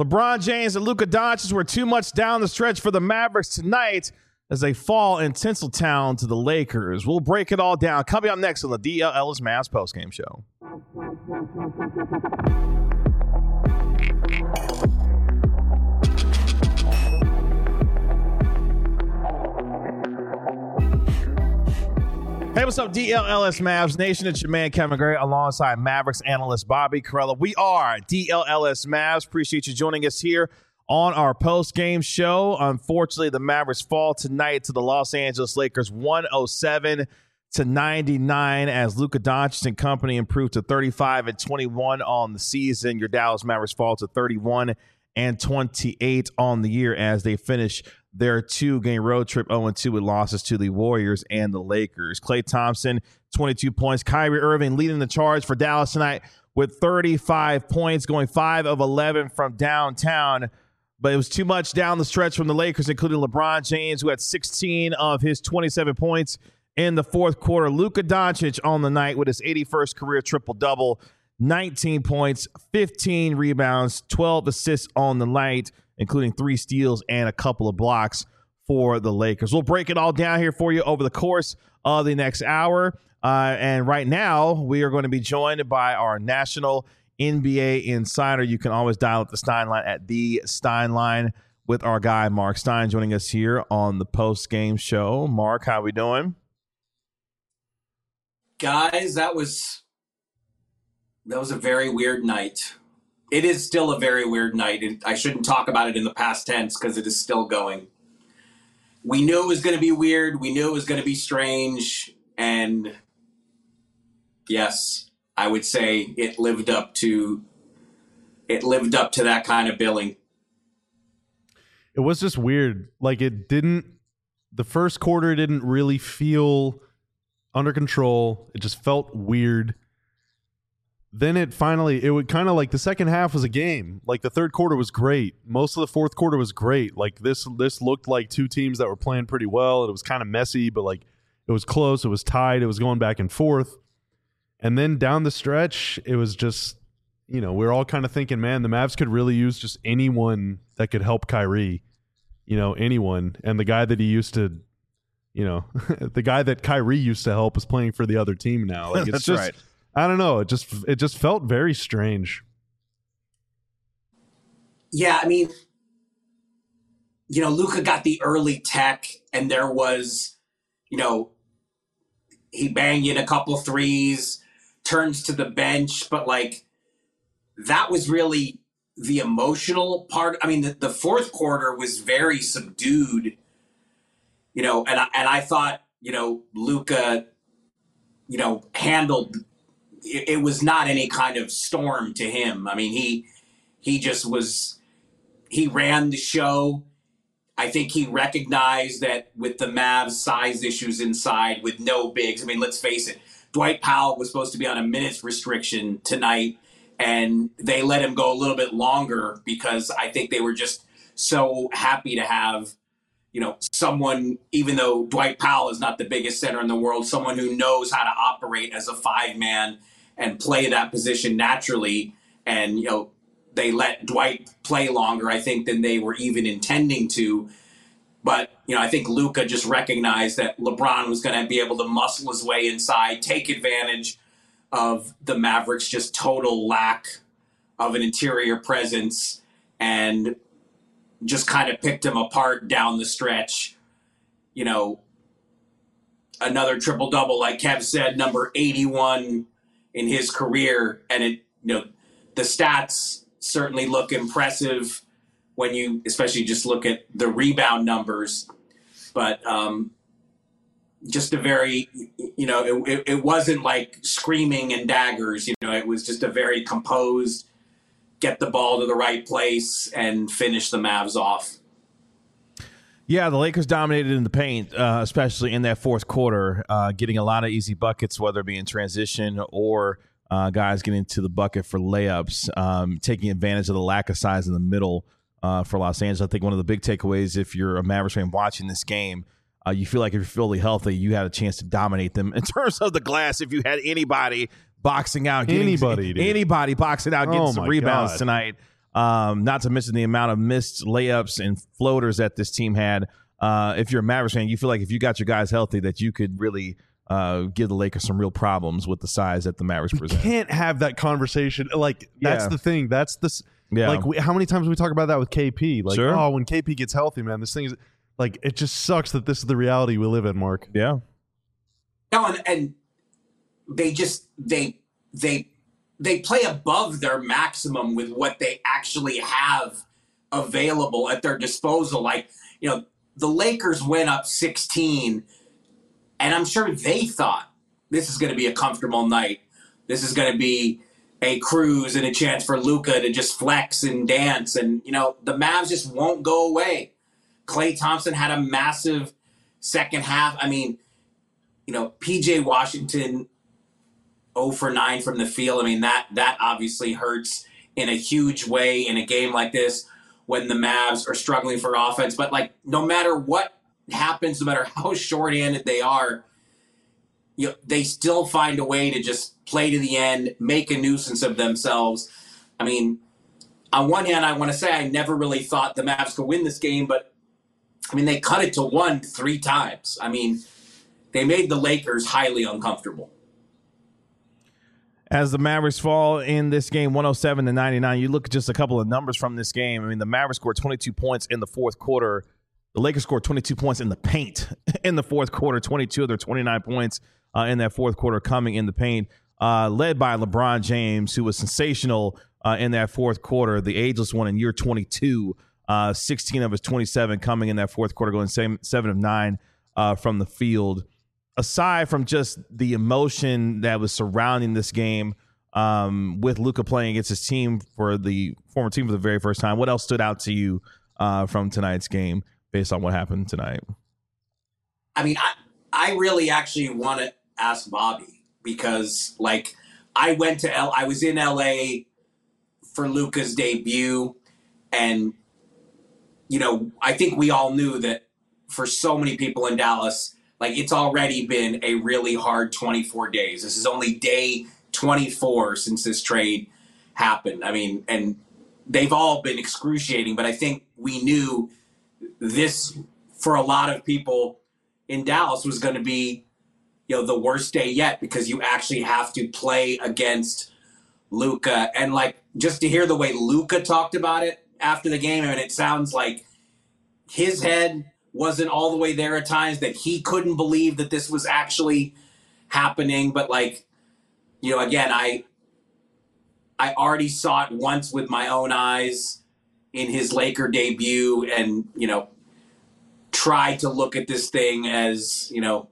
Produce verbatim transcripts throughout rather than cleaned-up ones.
LeBron James and Luka Doncic were too much down the stretch for the Mavericks tonight as they fall in Tinseltown to the Lakers. We'll break it all down. Coming up next on the D L Ellis Mavs postgame show. Hey, what's up, D L L S Mavs Nation? It's your man, Kevin Gray, alongside Mavericks analyst Bobby Karalla. We are D L L S Mavs. Appreciate you joining us here on our post-game show. Unfortunately, the Mavericks fall tonight to the Los Angeles Lakers one oh seven to ninety-nine as Luka Doncic and company improved to thirty-five and twenty-one on the season. Your Dallas Mavericks fall to thirty-one and twenty-eight on the year as they finish their two-game road trip oh and two with losses to the Warriors and the Lakers. Klay Thompson, twenty-two points. Kyrie Irving leading the charge for Dallas tonight with thirty-five points, going five of eleven from downtown. But it was too much down the stretch from the Lakers, including LeBron James, who had sixteen of his twenty-seven points in the fourth quarter. Luka Doncic on the night with his eighty-first career triple-double, nineteen points, fifteen rebounds, twelve assists on the night, including three steals and a couple of blocks for the Lakers. We'll break it all down here for you over the course of the next hour. Uh, and right now, we are going to be joined by our national N B A insider. You can always dial up the Stein line at the Stein line with our guy, Mark Stein, joining us here on the post-game show. Mark, how we doing? Guys, that was that was a very weird night. It is still a very weird night. It, I shouldn't talk about it in the past tense because it is still going. We knew it was going to be weird. We knew it was going to be strange. And yes, I would say it lived up to it lived up to that kind of billing. It was just weird. Like it didn't the first quarter didn't really feel under control. It just felt weird. Then it finally, it would kind of like the second half was a game. Like the third quarter was great. Most of the fourth quarter was great. Like this, this looked like two teams that were playing pretty well. It was kind of messy, but like it was close. It was tied. It was going back and forth. And then down the stretch, it was just, you know, we we're all kind of thinking, man, the Mavs could really use just anyone that could help Kyrie, you know, anyone. And the guy that he used to, you know, the guy that Kyrie used to help is playing for the other team now. Like it's That's just, right. I don't know. It just it just felt very strange. Yeah, I mean, you know, Luka got the early tech, and there was, you know, he banged in a couple threes, turns to the bench, but like that was really the emotional part. I mean, the, the fourth quarter was very subdued, you know, and I, and I thought, you know, Luka, you know, handled. It, it was not any kind of storm to him. I mean, he he just was. He ran the show. I think he recognized that with the Mavs' size issues inside, with no bigs. I mean, let's face it. Dwight Powell was supposed to be on a minutes restriction tonight, and they let him go a little bit longer because I think they were just so happy to have, you know, someone, even though Dwight Powell is not the biggest center in the world, someone who knows how to operate as a five-man and play that position naturally. And, you know, they let Dwight play longer, I think, than they were even intending to. But, you know, I think Luka just recognized that LeBron was going to be able to muscle his way inside, take advantage of the Mavericks' just total lack of an interior presence, and just kind of picked him apart down the stretch. You know, another triple-double, like Kev said, number eighty-one in his career. And, it, you know, the stats certainly look impressive when you especially just look at the rebound numbers. But um, just a very, you know, it, it, it wasn't like screaming and daggers. You know, it was just a very composed, get the ball to the right place and finish the Mavs off. Yeah, the Lakers dominated in the paint, uh, especially in that fourth quarter, uh, getting a lot of easy buckets, whether it be in transition or uh, guys getting to the bucket for layups, um, taking advantage of the lack of size in the middle uh, for Los Angeles. I think one of the big takeaways, if you're a Mavericks fan watching this game, uh, you feel like if you're fully healthy, you had a chance to dominate them. In terms of the glass, if you had anybody boxing out, getting, anybody, dude. anybody boxing out, getting oh some my rebounds God. tonight, Um, not to mention the amount of missed layups and floaters that this team had. Uh, if you're a Mavericks fan, you feel like if you got your guys healthy, that you could really uh, give the Lakers some real problems with the size that the Mavericks we present. Can't have that conversation. Like that's Yeah. the thing. That's the Yeah. like we, how many times we talk about that with K P? Like Sure. oh, when K P gets healthy, man, this thing is like it just sucks that this is the reality we live in, Mark. Yeah. No, and, and they just they they they play above their maximum with what they actually have available at their disposal. Like, you know, the Lakers went up sixteen, and I'm sure they thought this is going to be a comfortable night. This is going to be a cruise and a chance for Luka to just flex and dance. And, you know, the Mavs just won't go away. Klay Thompson had a massive second half. I mean, you know, P J Washington zero for nine from the field. I mean, that that obviously hurts in a huge way in a game like this when the Mavs are struggling for offense. But, like, no matter what happens, no matter how short-handed they are, you know, they still find a way to just play to the end, make a nuisance of themselves. I mean, on one hand, I want to say I never really thought the Mavs could win this game, but, I mean, they cut it to one three times. I mean, they made the Lakers highly uncomfortable. As the Mavericks fall in this game, one oh seven to ninety-nine, you look at just a couple of numbers from this game. I mean, the Mavericks scored twenty-two points in the fourth quarter. The Lakers scored twenty-two points in the paint in the fourth quarter, twenty-two of their twenty-nine points uh, in that fourth quarter coming in the paint, uh, led by LeBron James, who was sensational uh, in that fourth quarter, the ageless one in year twenty-two, uh, sixteen of his twenty-seven coming in that fourth quarter, going seven, seven of nine uh, from the field. Aside from just the emotion that was surrounding this game um, with Luka playing against his team for the former team for the very first time, what else stood out to you uh, from tonight's game based on what happened tonight? I mean, I, I really actually want to ask Bobby because, like, I went to L. I was in L A for Luka's debut, and, you know, I think we all knew that for so many people in Dallas, like, it's already been a really hard twenty-four days. This is only day twenty-four since this trade happened. I mean, and they've all been excruciating, but I think we knew this, for a lot of people in Dallas, was going to be, you know, the worst day yet because you actually have to play against Luka. And, like, just to hear the way Luka talked about it after the game, I mean, it sounds like his head wasn't all the way there at times, that he couldn't believe that this was actually happening. But, like, you know, again, I I already saw it once with my own eyes in his Laker debut and, you know, tried to look at this thing as, you know,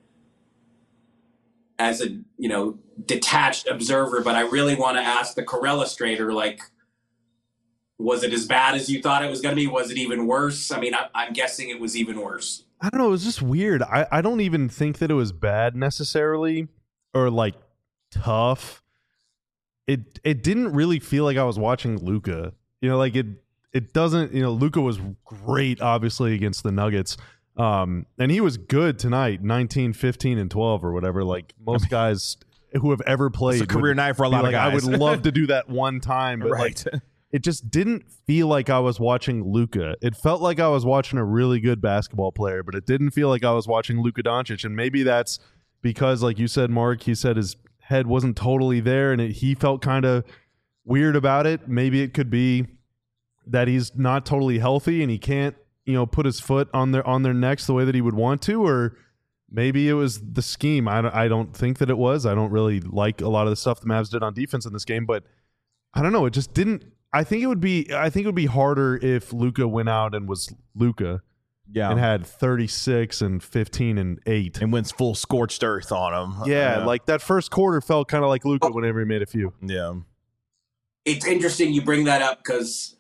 as a, you know, detached observer. But I really want to ask the Corellustrator, like, was it as bad as you thought it was going to be? Was it even worse? I mean, I, I'm guessing it was even worse. I don't know. It was just weird. I, I don't even think that it was bad necessarily or like tough. It it didn't really feel like I was watching Luka. You know, like it it doesn't, you know, Luka was great, obviously, against the Nuggets. Um, and he was good tonight, nineteen, fifteen, and twelve or whatever. Like most guys who have ever played. It's a career would night for a be lot like, of guys. I would love to do that one time, but Right. like it just didn't feel like I was watching Luka. It felt like I was watching a really good basketball player, but it didn't feel like I was watching Luka Doncic. And maybe that's because, like you said, Mark, he said his head wasn't totally there and it, he felt kind of weird about it. Maybe it could be that he's not totally healthy and he can't, you know, put his foot on their on their necks the way that he would want to, or maybe it was the scheme. I don't, I don't think that it was. I don't really like a lot of the stuff the Mavs did on defense in this game, but I don't know. It just didn't. I think it would be. I think it would be harder if Luka went out and was Luka, Yeah. and had thirty-six and fifteen and eight, and went full scorched earth on him. yeah, Uh, like that first quarter felt kind of like Luka whenever he made a few. yeah. It's interesting you bring that up because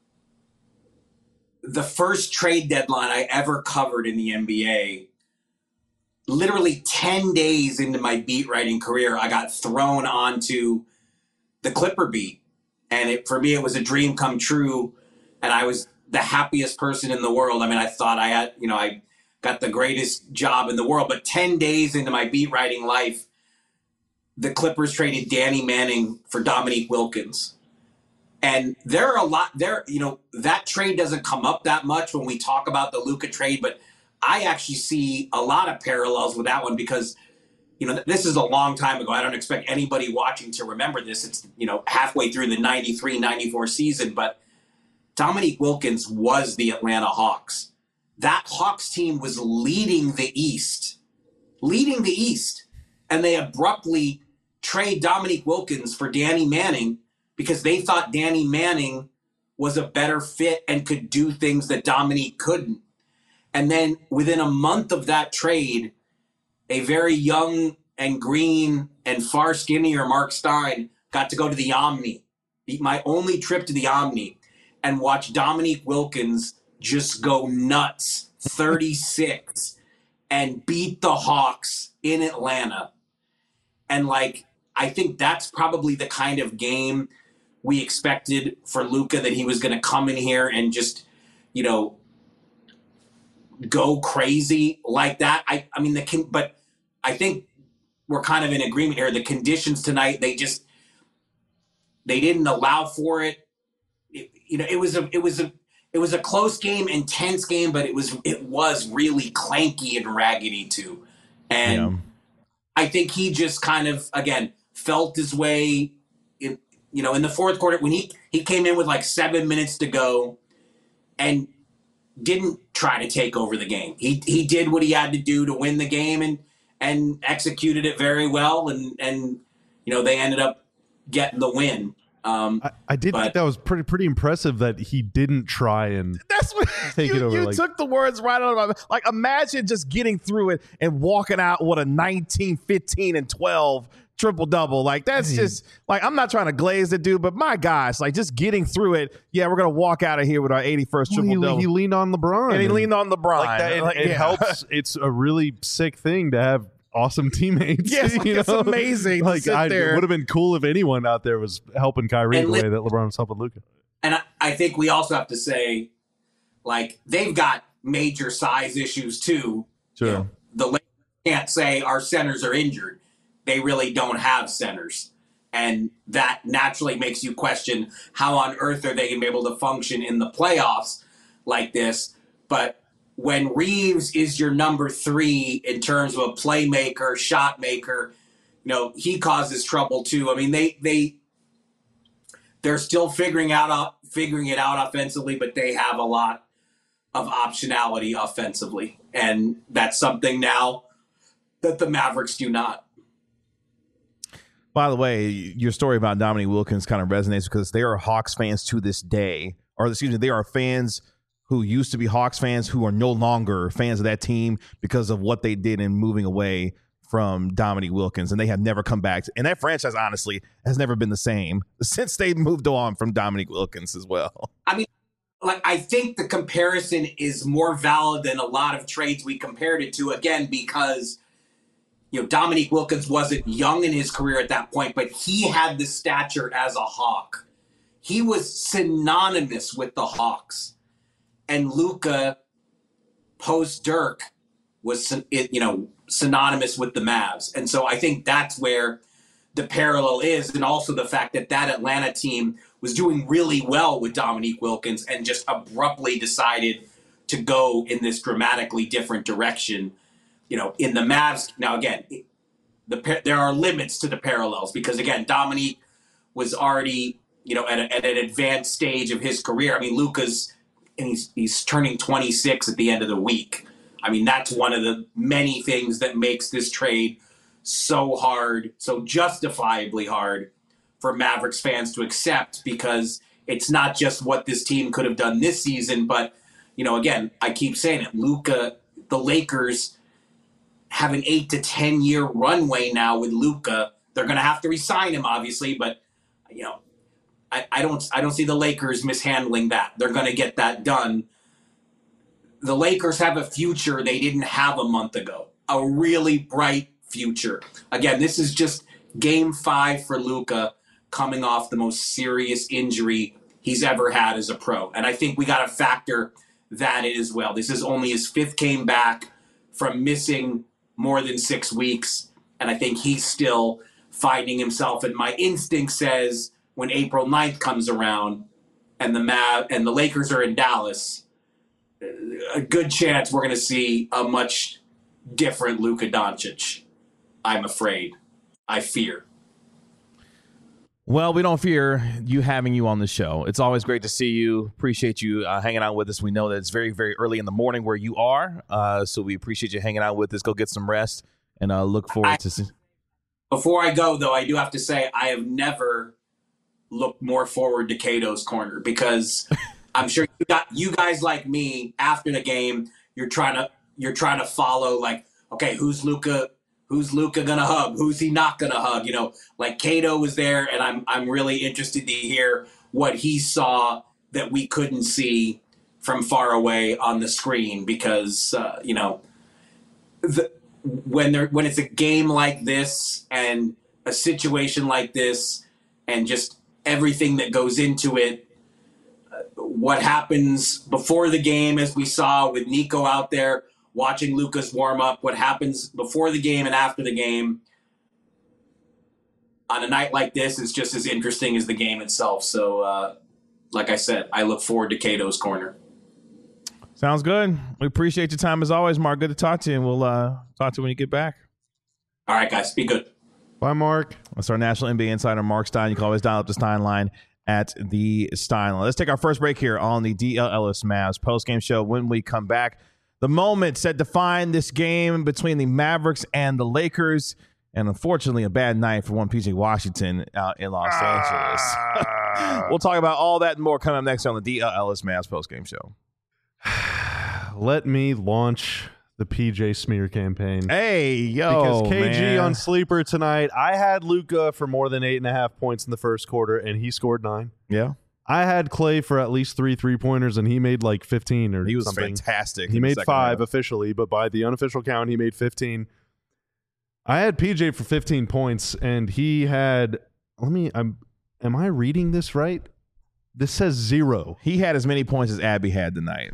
the first trade deadline I ever covered in the N B A, literally ten days into my beat writing career, I got thrown onto the Clipper beat. And it, for me, it was a dream come true. And I was the happiest person in the world. I mean, I thought I had, you know, I got the greatest job in the world. But ten days into my beat writing life, the Clippers traded Danny Manning for Dominique Wilkins. And there are a lot there, you know, that trade doesn't come up that much when we talk about the Luka trade, but I actually see a lot of parallels with that one because, you know, this is a long time ago. I don't expect anybody watching to remember this. It's, you know, halfway through the ninety-three ninety-four season, but Dominique Wilkins was the Atlanta Hawks. That Hawks team was leading the East, leading the East. And they abruptly trade Dominique Wilkins for Danny Manning because they thought Danny Manning was a better fit and could do things that Dominique couldn't. And then within a month of that trade, a very young and green and far skinnier Mark Stein got to go to the Omni, my only trip to the Omni, and watch Dominique Wilkins just go nuts, thirty-six, and beat the Hawks in Atlanta. And, like, I think that's probably the kind of game we expected for Luka, that he was going to come in here and just, you know, go crazy like that. I, I mean, the but I think we're kind of in agreement here. The conditions tonight, they just, they didn't allow for it. It you know, it was a, it was a, it was a close game, intense game, but it was, it was really clanky and raggedy too. And yeah. I think he just kind of, again, felt his way in, you know, in the fourth quarter when he, he came in with like seven minutes to go and didn't try to take over the game. He he did what he had to do to win the game and and executed it very well. And, and you know, they ended up getting the win. Um, I, I did but, think that was pretty pretty impressive that he didn't try and that's what take you, it over. You like, took the words right out of my mouth. Like, imagine just getting through it and walking out with a nineteen, fifteen, and twelve triple double. Like, that's just like, I'm not trying to glaze the dude, but my gosh, like, just getting through it. Yeah, we're gonna walk out of here with our eighty-first well, triple double. He, he leaned on LeBron, and he leaned on LeBron. Like that, it, like, it yeah. helps. It's a really sick thing to have awesome teammates. Yes, like, you it's know? amazing. Like, to I, sit there. It would have been cool if anyone out there was helping Kyrie and the li- way that LeBron was helping Luka. And I, I think we also have to say, like, they've got major size issues too. Sure. You know, the Lakers can't say our centers are injured. They really don't have centers. And that naturally makes you question how on earth are they going to be able to function in the playoffs like this. But when Reeves is your number three in terms of a playmaker, shot maker, you know, he causes trouble too. I mean, they they they're still figuring out figuring it out offensively, but they have a lot of optionality offensively, and that's something now that the Mavericks do not. By the way, your story about Dominique Wilkins kind of resonates because they are Hawks fans to this day, or excuse me, they are fans who used to be Hawks fans who are no longer fans of that team because of what they did in moving away from Dominique Wilkins, and they have never come back. And that franchise, honestly, has never been the same since they moved on from Dominique Wilkins as well. I mean, like, I think the comparison is more valid than a lot of trades we compared it to, again, because, you know, Dominique Wilkins wasn't young in his career at that point, but he had the stature as a Hawk. He was synonymous with the Hawks. And Luka, post Dirk, was, you know, synonymous with the Mavs. And so I think that's where the parallel is, and also the fact that that Atlanta team was doing really well with Dominique Wilkins and just abruptly decided to go in this dramatically different direction. You know, in the Mavs, now again, the there are limits to the parallels because, again, Dominique was already, you know, at, a, at an advanced stage of his career. I mean, Luka's, and he's he's turning twenty-six at the end of the week. I mean, that's one of the many things that makes this trade so hard, so justifiably hard for Mavericks fans to accept, because it's not just what this team could have done this season, but, you know, again, I keep saying it, Luka, the Lakers have an eight to ten year runway now with Luka. They're going to have to re-sign him, obviously, but, you know, I, I don't I don't see the Lakers mishandling that. They're going to get that done. The Lakers have a future they didn't have a month ago, a really bright future. Again, this is just game five for Luka, coming off the most serious injury he's ever had as a pro. And I think we got to factor that in as well. This is only his fifth game back from missing more than six weeks. And I think he's still finding himself. And my instinct says when April ninth comes around and the Mav and the Lakers are in Dallas, a good chance we're going to see a much different Luka Doncic. I'm afraid. I fear. Well, we don't fear you having you on the show. It's always great to see you. Appreciate you uh, hanging out with us. We know that it's very, very early in the morning where you are, uh, so we appreciate you hanging out with us. Go get some rest, and uh, look forward I, to see. Before I go, though, I do have to say I have never looked more forward to Cato's Corner, because I'm sure you got you guys like me after the game. You're trying to you're trying to follow, like, okay, who's Luka? Who's Luka gonna hug? Who's he not gonna hug? You know, like Cato was there, and I'm I'm really interested to hear what he saw that we couldn't see from far away on the screen, because uh, you know, the, when there when it's a game like this and a situation like this and just everything that goes into it, uh, what happens before the game, as we saw with Nico out there watching Luka's warm up, what happens before the game and after the game on a night like this is just as interesting as the game itself. So, uh, like I said, I look forward to Cato's Corner. Sounds good. We appreciate your time as always, Mark. Good to talk to you, and we'll uh, talk to you when you get back. All right, guys. Be good. Bye, Mark. That's our National N B A insider, Mark Stein. You can always dial up the Stein line at the Stein line. Let's take our first break here on the D L Ellis Mavs post-game show. When we come back, the moment set to define this game between the Mavericks and the Lakers, and unfortunately a bad night for one P J Washington out in Los Angeles. We'll talk about all that and more coming up next on the D L Ellis Mavs postgame show. Let me launch the P J smear campaign. Hey, yo, because K G man. on Sleeper tonight, I had Luka for more than eight and a half points in the first quarter, and he scored nine. Yeah. I had Clay for at least three three-pointers, and he made like fifteen or He was something. fantastic. He made five half. officially, but by the unofficial count, he made fifteen. I had P J for fifteen points, and he had, let me, I'm, am I reading this right? This says zero. He had as many points as Abby had tonight.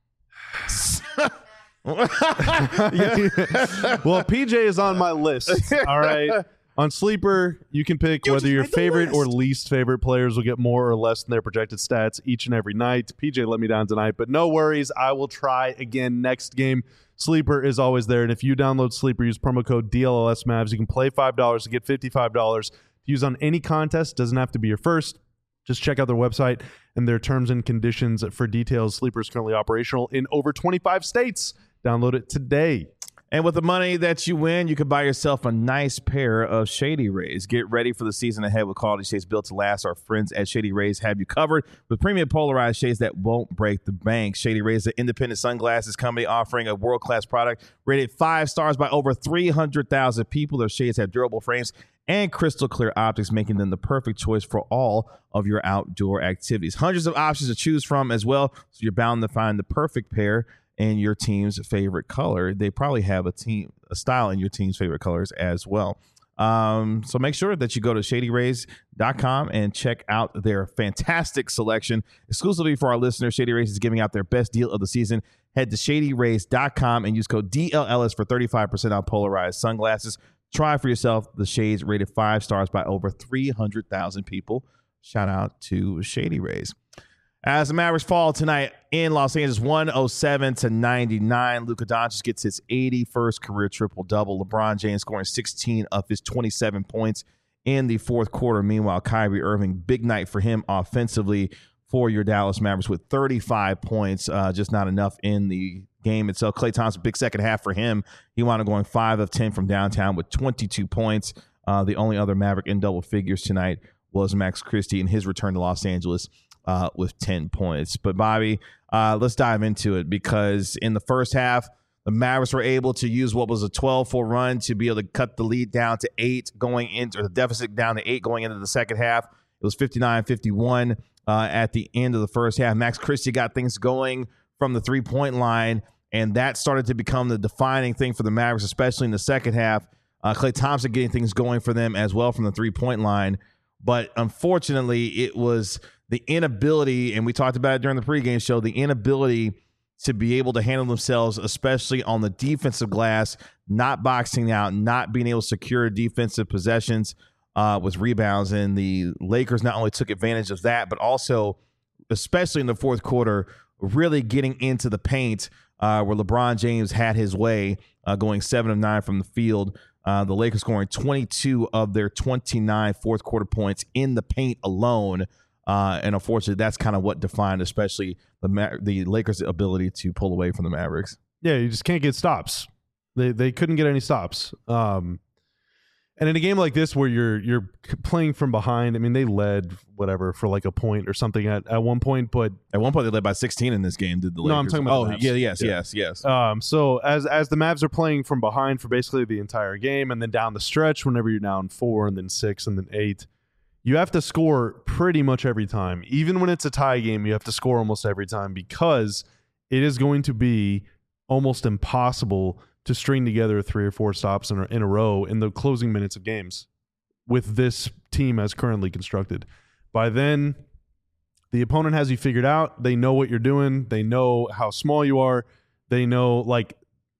Well, P J is on my list. All right. On Sleeper, you can pick You whether just your made the favorite or list. least favorite players will get more or less than their projected stats each and every night. P J let me down tonight, but no worries. I will try again next game. Sleeper is always there, and if you download Sleeper, use promo code D L L S Mavs. You can play five dollars to get fifty-five dollars to use on any contest. Doesn't have to be your first. Just check out their website and their terms and conditions for details. Sleeper is currently operational in over twenty-five states. Download it today. And with the money that you win, you can buy yourself a nice pair of Shady Rays. Get ready for the season ahead with quality shades built to last. Our friends at Shady Rays have you covered with premium polarized shades that won't break the bank. Shady Rays, the independent sunglasses company offering a world-class product rated five stars by over three hundred thousand people. Their shades have durable frames and crystal clear optics, making them the perfect choice for all of your outdoor activities. Hundreds of options to choose from as well, so you're bound to find the perfect pair in your team's favorite color. They probably have a team, a style in your team's favorite colors as well. Um, so make sure that you go to shady rays dot com and check out their fantastic selection. Exclusively for our listeners, Shady Rays is giving out their best deal of the season. Head to shady rays dot com and use code D L L S for thirty-five percent off polarized sunglasses. Try for yourself the shades rated five stars by over three hundred thousand people. Shout out to Shady Rays. As the Mavericks fall tonight in Los Angeles, one oh seven to ninety-nine, Luka Doncic gets his eighty-first career triple-double. LeBron James scoring sixteen of his twenty-seven points in the fourth quarter. Meanwhile, Kyrie Irving, big night for him offensively for your Dallas Mavericks with thirty-five points, uh, just not enough in the game itself. Klay Thompson, big second half for him. He wound up going five of ten from downtown with twenty-two points. Uh, the only other Maverick in double figures tonight was Max Christie in his return to Los Angeles uh, with ten points. But, Bobby, uh, let's dive into it, because in the first half, the Mavericks were able to use what was a twelve four run to be able to cut the lead down to eight going into, or the deficit down to eight going into the second half. It was fifty-nine fifty-one uh, at the end of the first half. Max Christie got things going from the three-point line, and that started to become the defining thing for the Mavericks, especially in the second half. Uh, Klay Thompson getting things going for them as well from the three-point line. But unfortunately, it was the inability, and we talked about it during the pregame show, the inability to be able to handle themselves, especially on the defensive glass, not boxing out, not being able to secure defensive possessions. uh, with rebounds, and the Lakers not only took advantage of that, but also, especially in the fourth quarter, really getting into the paint uh, where LeBron James had his way, uh, going seven of nine from the field. Uh, the Lakers scoring twenty-two of their twenty-nine fourth quarter points in the paint alone. Uh, and unfortunately, that's kind of what defined especially the Ma- the Lakers' ability to pull away from the Mavericks. Yeah, you just can't get stops. They they couldn't get any stops. Um, and in a game like this where you're you're playing from behind, I mean, they led whatever for like a point or something at, at one point, but at one point they led by sixteen in this game. Did the Lakers? No, I'm talking about oh the Mavs. yeah, yes, yeah. yes, yes. Um, so as as the Mavs are playing from behind for basically the entire game, and then down the stretch, whenever you're down four and then six and then eight, you have to score pretty much every time. Even when it's a tie game, you have to score almost every time because it is going to be almost impossible to string together three or four stops in a, in a row in the closing minutes of games with this team as currently constructed. By then, the opponent has you figured out. They know what you're doing. They know how small you are. They know, like,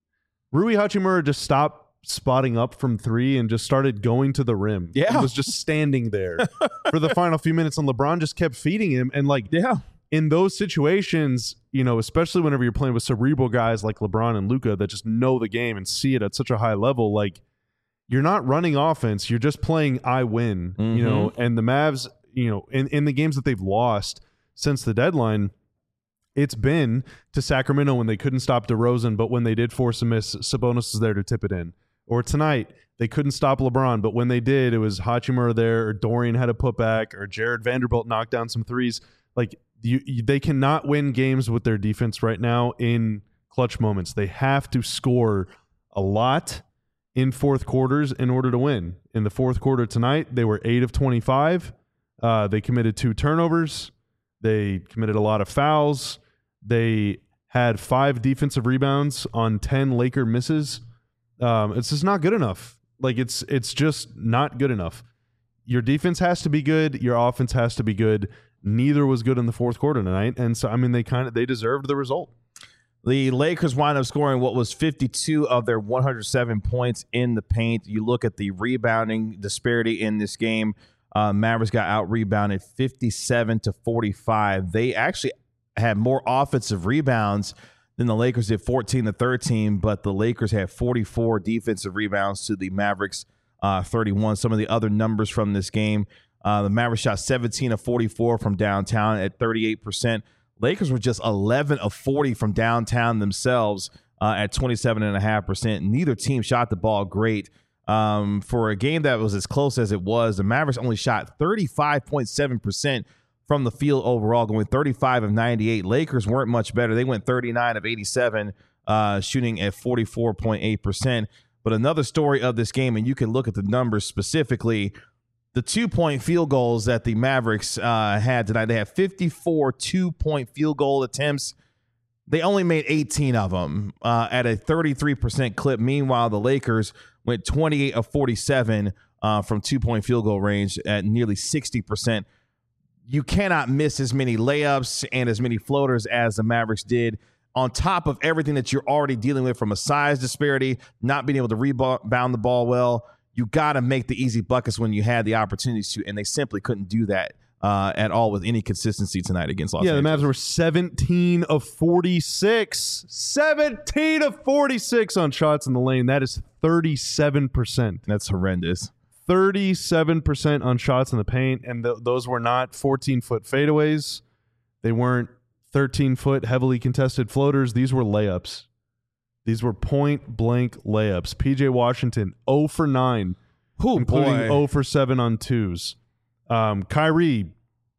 Rui Hachimura just stopped spotting up from three and just started going to the rim. Yeah. He was just standing there for the final few minutes, and LeBron just kept feeding him. And, like, yeah. in those situations, you know, especially whenever you're playing with cerebral guys like LeBron and Luka that just know the game and see it at such a high level, like, you're not running offense. You're just playing I win, mm-hmm. you know, and the Mavs, you know, in, in the games that they've lost since the deadline, it's been to Sacramento when they couldn't stop DeRozan, but when they did force a miss, Sabonis was there to tip it in. Or tonight, they couldn't stop LeBron, but when they did, it was Hachimura there, or Dorian had a putback, or Jared Vanderbilt knocked down some threes. Like, you, you, they cannot win games with their defense right now in clutch moments. They have to score a lot in fourth quarters in order to win. In the fourth quarter tonight, they were eight of twenty-five. Uh, they committed two turnovers. They committed a lot of fouls. They had five defensive rebounds on ten Laker misses. Um, it's just not good enough. Like, it's it's just not good enough. Your defense has to be good. Your offense has to be good. Neither was good in the fourth quarter tonight. And so, I mean, they kind of they deserved the result. The Lakers wind up scoring what was fifty-two of their one hundred seven points in the paint. You look at the rebounding disparity in this game. Uh, Mavericks got out-rebounded fifty-seven to forty-five. They actually had more offensive rebounds than the Lakers did, fourteen to thirteen, but the Lakers had forty-four defensive rebounds to the Mavericks uh, thirty-one. Some of the other numbers from this game, uh, the Mavericks shot seventeen of forty-four from downtown at thirty-eight percent. Lakers were just eleven of forty from downtown themselves uh, at twenty-seven point five percent. Neither team shot the ball great. Um, for a game that was as close as it was, the Mavericks only shot thirty-five point seven percent from the field overall, going thirty-five of ninety-eight. Lakers weren't much better. They went thirty-nine of eighty-seven, uh, shooting at forty-four point eight percent. But another story of this game, and you can look at the numbers specifically, the two-point field goals that the Mavericks uh, had tonight. They had fifty-four two-point field goal attempts. They only made eighteen of them uh, at a thirty-three percent clip. Meanwhile, the Lakers went twenty-eight of forty-seven uh, from two-point field goal range at nearly sixty percent. You cannot miss as many layups and as many floaters as the Mavericks did, on top of everything that you're already dealing with from a size disparity, not being able to rebound the ball well. You got to make the easy buckets when you had the opportunities to, and they simply couldn't do that uh, at all with any consistency tonight against Los yeah, Angeles. Yeah, the Mavs were seventeen of forty-six. seventeen of forty-six on shots in the lane. That is thirty-seven percent. That's horrendous. thirty-seven percent on shots in the paint, and th- those were not fourteen-foot fadeaways. They weren't thirteen-foot heavily contested floaters. These were layups. These were point-blank layups. P J Washington, zero for nine, Ooh, including boy. zero for seven on twos. Um, Kyrie,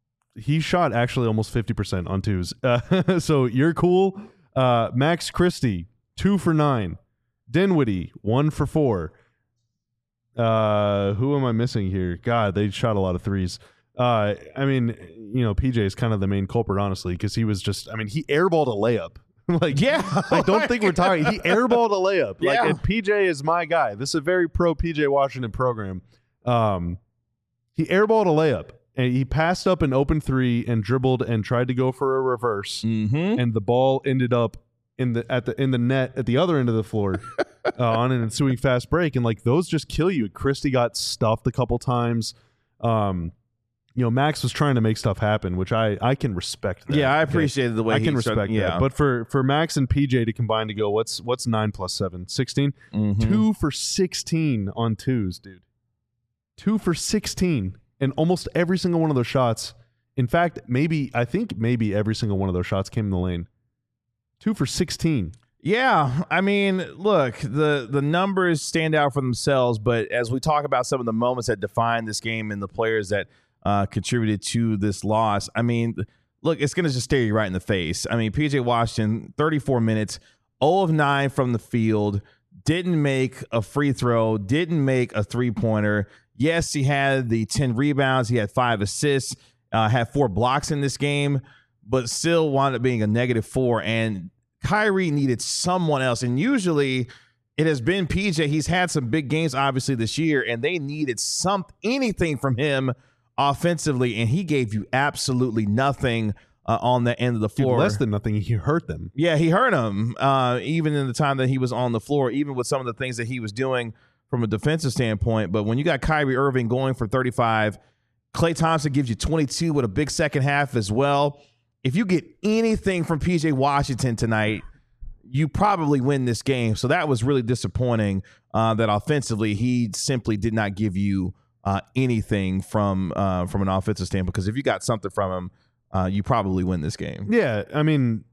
he shot actually almost fifty percent on twos. Uh, so you're cool. Uh, Max Christie, two for nine. Dinwiddie, one for four. Uh, who am I missing here? God, they shot a lot of threes. Uh, I mean, you know, P J is kind of the main culprit, honestly, because he was just, I mean, he airballed a layup. like, Yeah. I don't think we're talking. He airballed a layup. Like, Yeah. and P J is my guy. This is a very pro P J Washington program. Um, he airballed a layup, and he passed up an open three and dribbled and tried to go for a reverse, Mm-hmm. and the ball ended up in the at the in the net at the other end of the floor. uh, on an ensuing fast break, and like those just kill you. Christie got stuffed a couple times. Um, you know, Max was trying to make stuff happen, which I I can respect. That, yeah, I okay? appreciated the way I he can started- respect yeah. that. But for for Max and P J to combine to go, what's what's nine plus seven? sixteen? Mhm. Two for sixteen on twos, dude. Two for sixteen, and almost every single one of those shots. In fact, maybe I think maybe every single one of those shots came in the lane. Two for sixteen. Yeah, I mean, look, the the numbers stand out for themselves, but as we talk about some of the moments that define this game and the players that uh, contributed to this loss, I mean, look, it's going to just stare you right in the face. I mean, P J Washington, thirty-four minutes, zero of nine from the field, didn't make a free throw, didn't make a three-pointer. Yes, he had the ten rebounds, he had five assists, uh, had four blocks in this game, but still wound up being a negative four, and Kyrie needed someone else, and usually it has been P J. He's had some big games, obviously, this year, and they needed some anything from him offensively, and he gave you absolutely nothing uh, on the end of the floor. Dude, less than nothing. He hurt them. Yeah, he hurt him, uh, even in the time that he was on the floor, even with some of the things that he was doing from a defensive standpoint. But when you got Kyrie Irving going for thirty-five, Klay Thompson gives you twenty-two with a big second half as well. If you get anything from P J Washington tonight, you probably win this game. So that was really disappointing uh, that offensively he simply did not give you uh, anything from uh, from an offensive standpoint. Because if you got something from him, uh, you probably win this game. Yeah, I mean,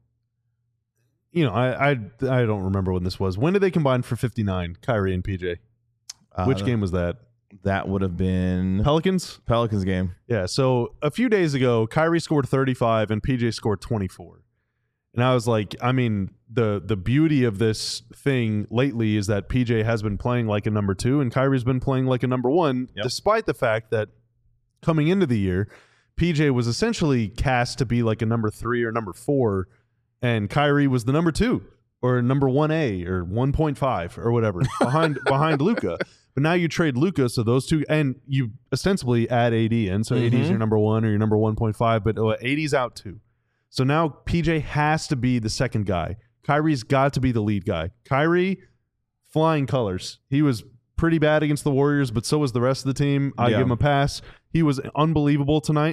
you know, I I I don't remember when this was. When did they combine for fifty-nine? Kyrie and P J. Uh, Which game was that? That would have been Pelicans? Pelicans game. Yeah, so a few days ago, Kyrie scored thirty-five and P J scored twenty-four. And I was like, I mean, the the beauty of this thing lately is that P J has been playing like a number two and Kyrie's been playing like a number one, Yep. despite the fact that coming into the year, P J was essentially cast to be like a number three or number four, and Kyrie was the number two or number one A or one point five or whatever behind behind Luka. But now you trade Luka, so those two, and you ostensibly add A D in. So Mhm. A D is your number one or your number one point five, but uh, A D's out too. So now P J has to be the second guy. Kyrie's got to be the lead guy. Kyrie, flying colors. He was pretty bad against the Warriors, but so was the rest of the team. I Yeah. give him a pass. He was unbelievable tonight.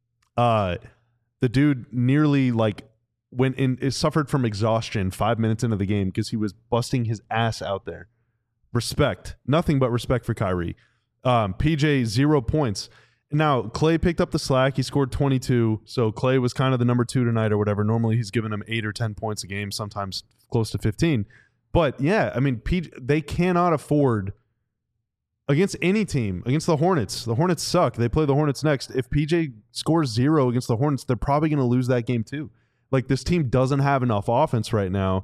Uh, the dude nearly like went in, it suffered from exhaustion five minutes into the game because he was busting his ass out there. Respect. Nothing but respect for Kyrie. Um, P J, zero points. Now, Klay picked up the slack. He scored twenty-two. So Klay was kind of the number two tonight or whatever. Normally he's giving him eight or ten points a game, sometimes close to fifteen. But yeah, I mean, P J, they cannot afford against any team, against the Hornets. The Hornets suck. They play the Hornets next. If P J scores zero against the Hornets, they're probably going to lose that game too. Like, this team doesn't have enough offense right now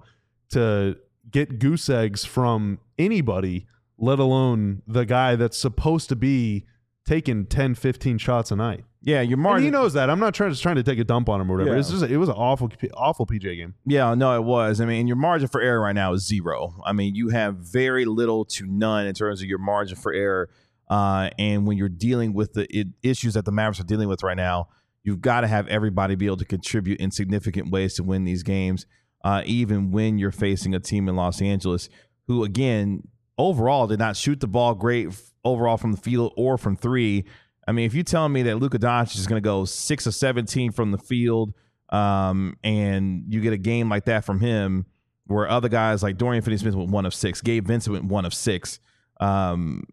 to get goose eggs from anybody, let alone the guy that's supposed to be taking ten, fifteen shots a night. Yeah, your And margin. he knows that. I'm not trying to trying to take a dump on him or whatever. Yeah. It's just it was an awful, awful P J game. Yeah, no, it was. I mean, your margin for error right now is zero. I mean, you have very little to none in terms of your margin for error. Uh, and when you're dealing with the it, issues that the Mavericks are dealing with right now, you've got to have everybody be able to contribute in significant ways to win these games, uh, even when you're facing a team in Los Angeles who, again, overall did not shoot the ball great f- overall from the field or from three. I mean, if you tell me that Luka Doncic is going to go six of seventeen from the field, um, and you get a game like that from him, where other guys like Dorian Finney-Smith went one of six, Gabe Vincent went one of six, um,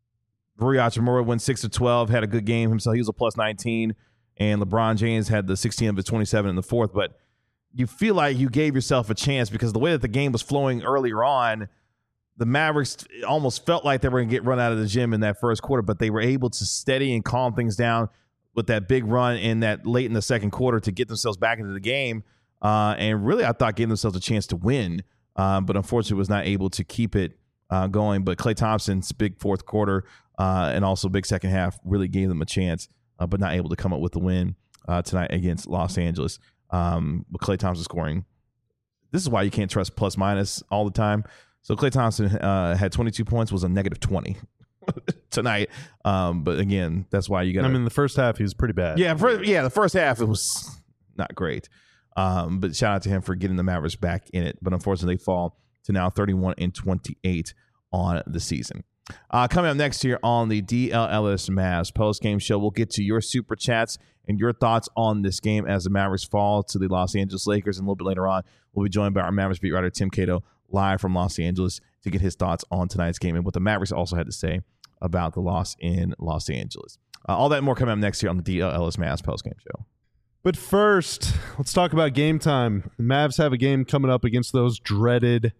Rui Hachimura went six of twelve, had a good game himself. He was a plus nineteen, and LeBron James had the sixteen of his twenty-seven in the fourth. But you feel like you gave yourself a chance because the way that the game was flowing earlier on, the Mavericks almost felt like they were going to get run out of the gym in that first quarter, but they were able to steady and calm things down with that big run in that late in the second quarter to get themselves back into the game. Uh, and really, I thought gave themselves a chance to win, um, but unfortunately was not able to keep it uh, going. But Klay Thompson's big fourth quarter uh, and also big second half really gave them a chance, uh, but not able to come up with the win uh, tonight against Los Angeles. Um, but Klay Thompson scoring. This is why you can't trust plus minus all the time. So Klay Thompson uh, had twenty-two points, was a negative twenty tonight. Um, but again, that's why you got. I mean, the first half he was pretty bad. Yeah, for, yeah, the first half it was not great. Um, but shout out to him for getting the Mavericks back in it. But unfortunately, they fall to now thirty-one and twenty-eight on the season. Uh, coming up next here on the D L L S Mavs post-game show, we'll get to your super chats and your thoughts on this game as the Mavericks fall to the Los Angeles Lakers. And a little bit later on, we'll be joined by our Mavericks beat writer, Tim Cato, live from Los Angeles to get his thoughts on tonight's game and what the Mavericks also had to say about the loss in Los Angeles. Uh, all that and more coming up next here on the D L L S Mavs post-game show. But first, let's talk about game time. The Mavs have a game coming up against those dreaded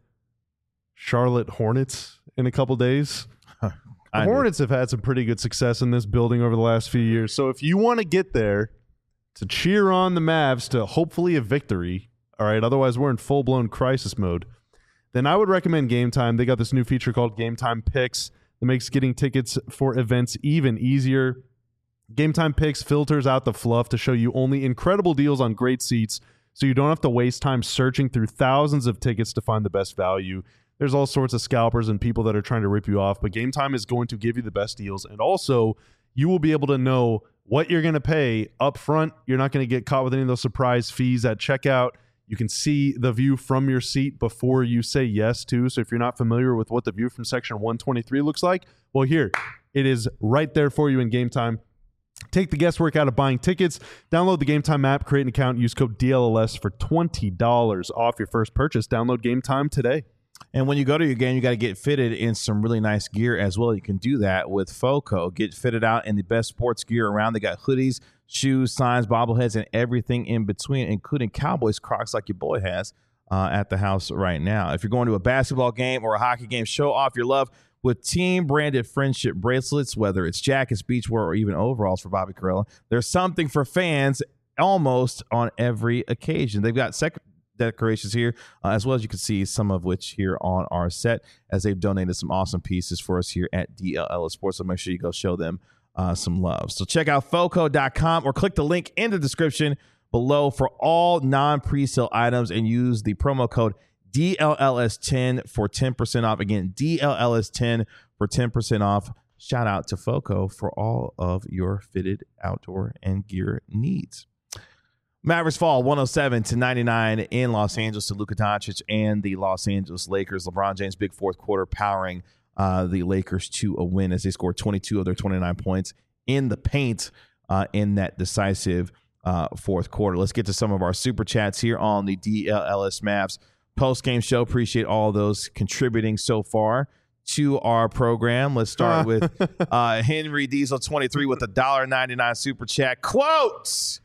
Charlotte Hornets in a couple days. The Hornets have had some pretty good success in this building over the last few years. So if you want to get there to cheer on the Mavs to hopefully a victory, all right, otherwise we're in full-blown crisis mode, then I would recommend Game Time. They got this new feature called Game Time Picks that makes getting tickets for events even easier. Game Time Picks filters out the fluff to show you only incredible deals on great seats, so you don't have to waste time searching through thousands of tickets to find the best value. There's all sorts of scalpers and people that are trying to rip you off, but Game Time is going to give you the best deals, and also you will be able to know what you're going to pay up front. You're not going to get caught with any of those surprise fees at checkout. You can see the view from your seat before you say yes to. So if you're not familiar with what the view from section one twenty-three looks like, well, here, it is right there for you in Game Time. Take the guesswork out of buying tickets. Download the Game Time app, create an account, use code D L L S for twenty dollars off your first purchase. Download Game Time today. And when you go to your game, you got to get fitted in some really nice gear as well. You can do that with FOCO. Get fitted out in the best sports gear around. They got hoodies, shoes, signs, bobbleheads, and everything in between, including Cowboys Crocs like your boy has uh, at the house right now. If you're going to a basketball game or a hockey game, show off your love with team-branded friendship bracelets, whether it's jackets, beachwear, or even overalls for Bobby Karalla. There's something for fans almost on every occasion. They've got second decorations here, uh, as well as you can see some of which here on our set, as they've donated some awesome pieces for us here at D L L S Sports. So make sure you go show them uh, some love. So check out foco dot com or click the link in the description below for all non-presale items and use the promo code D L L S ten for ten percent off. Again, D L L S ten for ten percent off. Shout out to FOCO for all of your fitted outdoor and gear needs. Mavericks fall one oh seven to ninety-nine in Los Angeles to Luka Doncic and the Los Angeles Lakers. LeBron James, big fourth quarter, powering uh, the Lakers to a win as they scored twenty-two of their twenty-nine points in the paint uh, in that decisive uh, fourth quarter. Let's get to some of our super chats here on the D L L S Mavs post-game show. Appreciate all those contributing so far to our program. Let's start with uh, Henry Diesel twenty-three with a one dollar ninety-nine super chat. Quotes.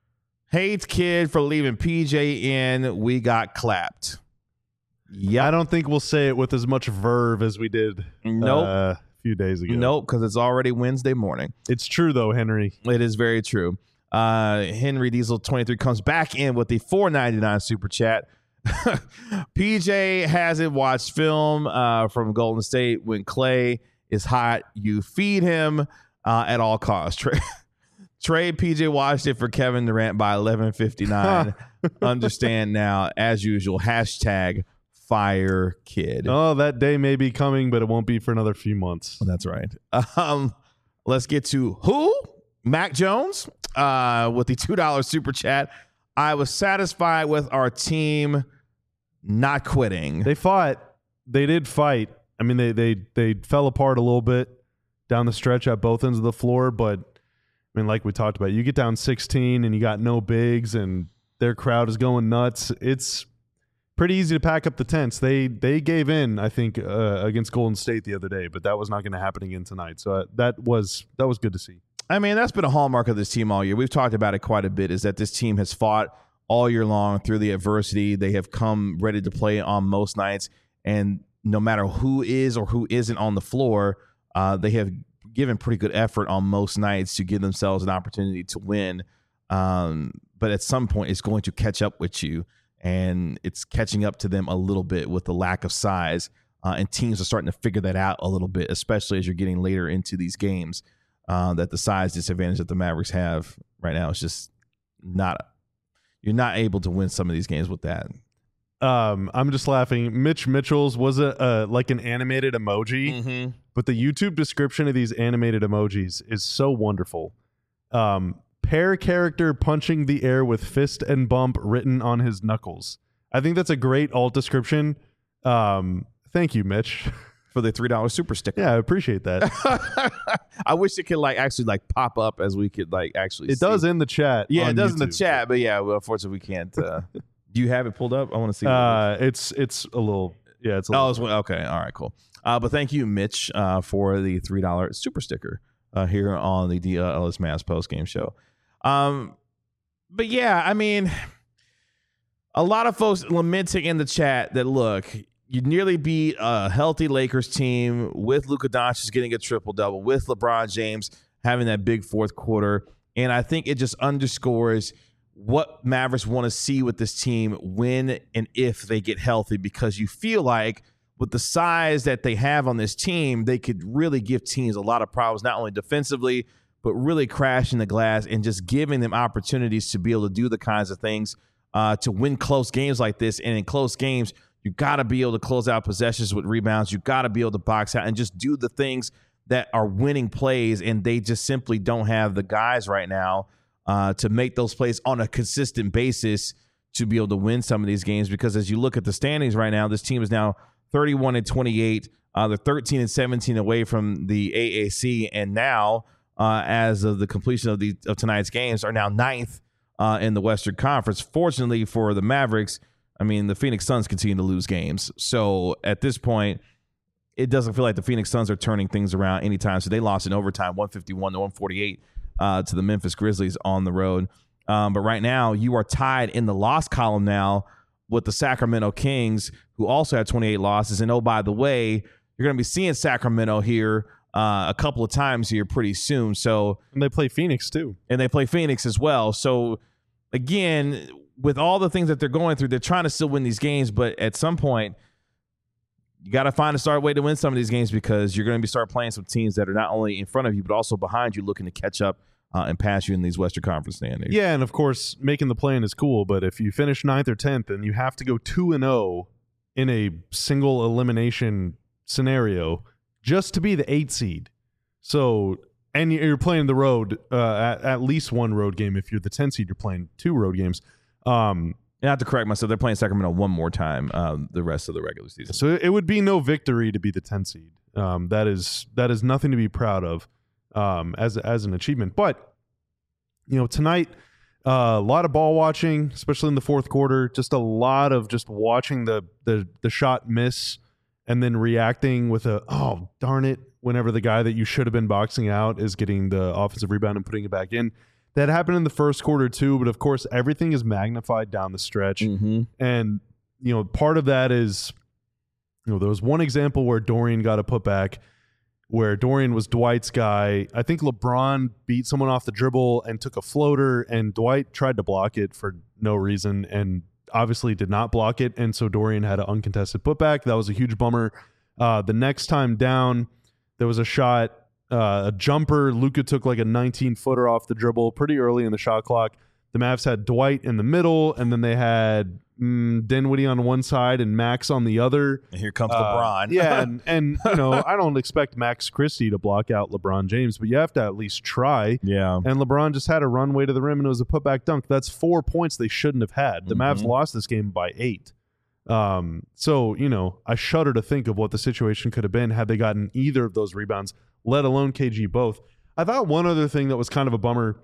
Hates kid for leaving P J in. We got clapped. Yeah, I don't think we'll say it with as much verve as we did nope. uh, a few days ago. Nope, because it's already Wednesday morning. It's true, though, Henry. It is very true. Uh, Henry Diesel twenty-three comes back in with the four ninety-nine super chat. P J hasn't watched film uh, from Golden State. When Clay is hot, you feed him uh, at all costs. Trey, Trade P J watched it for Kevin Durant by eleven fifty-nine. Understand now, as usual, hashtag fire kid. Oh, that day may be coming, but it won't be for another few months. That's right. Um, let's get to who? Mac Jones uh, with the two dollar super chat. I was satisfied with our team not quitting. They fought. They did fight. I mean, they they they fell apart a little bit down the stretch at both ends of the floor, but I mean, like we talked about, you get down sixteen and you got no bigs and their crowd is going nuts. It's pretty easy to pack up the tents. They they gave in, I think, uh, against Golden State the other day, but that was not going to happen again tonight. So uh, that was that was good to see. I mean, that's been a hallmark of this team all year. We've talked about it quite a bit, is that this team has fought all year long through the adversity. They have come ready to play on most nights, and no matter who is or who isn't on the floor, uh, they have given pretty good effort on most nights to give themselves an opportunity to win. Um, but at some point, it's going to catch up with you, and it's catching up to them a little bit with the lack of size. Uh, and teams are starting to figure that out a little bit, especially as you're getting later into these games, uh, that the size disadvantage that the Mavericks have right now is just not – you're not able to win some of these games with that. Um, I'm just laughing. Mitch Mitchell's was a uh, like an animated emoji, mm-hmm. but the YouTube description of these animated emojis is so wonderful. Um, pair character punching the air with fist and bump written on his knuckles. I think that's a great alt description Um, thank you, Mitch, for the three dollar super sticker. Yeah, I appreciate that. I wish it could like actually like pop up as we could like actually. It see. does in the chat. Yeah, it does YouTube. in the chat, but yeah, well, unfortunately, we can't. Uh, do you have it pulled up? I want to see. Uh, it's it's a little. Yeah, it's a little. Oh, it's, okay. All right, cool. Uh, but thank you, Mitch, uh, for the three dollar super sticker uh, here on the D L L S Mavs post game show. Um, but yeah, I mean, a lot of folks lamenting in the chat that look, you nearly beat a healthy Lakers team with Luka Doncic getting a triple double, with LeBron James having that big fourth quarter, and I think it just underscores what Mavericks want to see with this team when and if they get healthy, because you feel like with the size that they have on this team, they could really give teams a lot of problems, not only defensively, but really crashing the glass and just giving them opportunities to be able to do the kinds of things uh, to win close games like this. And in close games, you got to be able to close out possessions with rebounds. You got to be able to box out and just do the things that are winning plays. And they just simply don't have the guys right now uh, to make those plays on a consistent basis to be able to win some of these games. Because as you look at the standings right now, this team is now thirty-one and twenty-eight. Uh, they're thirteen and seventeen away from the A A C, and now, uh, as of the completion of the of tonight's games, are now ninth uh, in the Western Conference. Fortunately for the Mavericks, I mean, the Phoenix Suns continue to lose games. So at this point, it doesn't feel like the Phoenix Suns are turning things around anytime. So they lost in overtime, one fifty-one to one forty-eight, uh, to the Memphis Grizzlies on the road. Um, but right now, you are tied in the loss column now with the Sacramento Kings, who also have twenty-eight losses. And oh, by the way, you're going to be seeing Sacramento here uh, a couple of times here pretty soon. So, and they play Phoenix too. And they play Phoenix as well. So, again, with all the things that they're going through, they're trying to still win these games. But at some point, you got to find a start way to win some of these games, because you're going to be start playing some teams that are not only in front of you, but also behind you, looking to catch up Uh, and pass you in these Western Conference standings. Yeah, and of course, making the play-in is cool, but if you finish ninth or tenth and you have to go two and oh in a single elimination scenario just to be the eight seed, so and you're playing the road uh, at, at least one road game. If you're the ten seed, you're playing two road games. Um, I have to correct myself. They're playing Sacramento one more time um, the rest of the regular season. So it would be no victory to be the ten seed. Um, that is that is nothing to be proud of. Um, as as an achievement, but you know, tonight uh, a lot of ball watching, especially in the fourth quarter. Just a lot of just watching the the the shot miss and then reacting with a oh darn it whenever the guy that you should have been boxing out is getting the offensive rebound and putting it back in. That happened in the first quarter too, but of course everything is magnified down the stretch, mm-hmm. and you know part of that is you know there was one example where Dorian got a putback, where Dorian was Dwight's guy. I think LeBron beat someone off the dribble and took a floater, and Dwight tried to block it for no reason and obviously did not block it, and so Dorian had an uncontested putback. That was a huge bummer. Uh, the next time down, there was a shot, uh, a jumper. Luka took like a nineteen-footer off the dribble pretty early in the shot clock. The Mavs had Dwight in the middle, and then they had mm, Dinwiddie on one side and Max on the other. And here comes uh, LeBron. yeah, and, and you know, I don't expect Max Christie to block out LeBron James, but you have to at least try. Yeah. And LeBron just had a runway to the rim, and it was a putback dunk. That's four points they shouldn't have had. The mm-hmm. Mavs lost this game by eight. Um, so, you know, I shudder to think of what the situation could have been had they gotten either of those rebounds, let alone K G both. I thought one other thing that was kind of a bummer,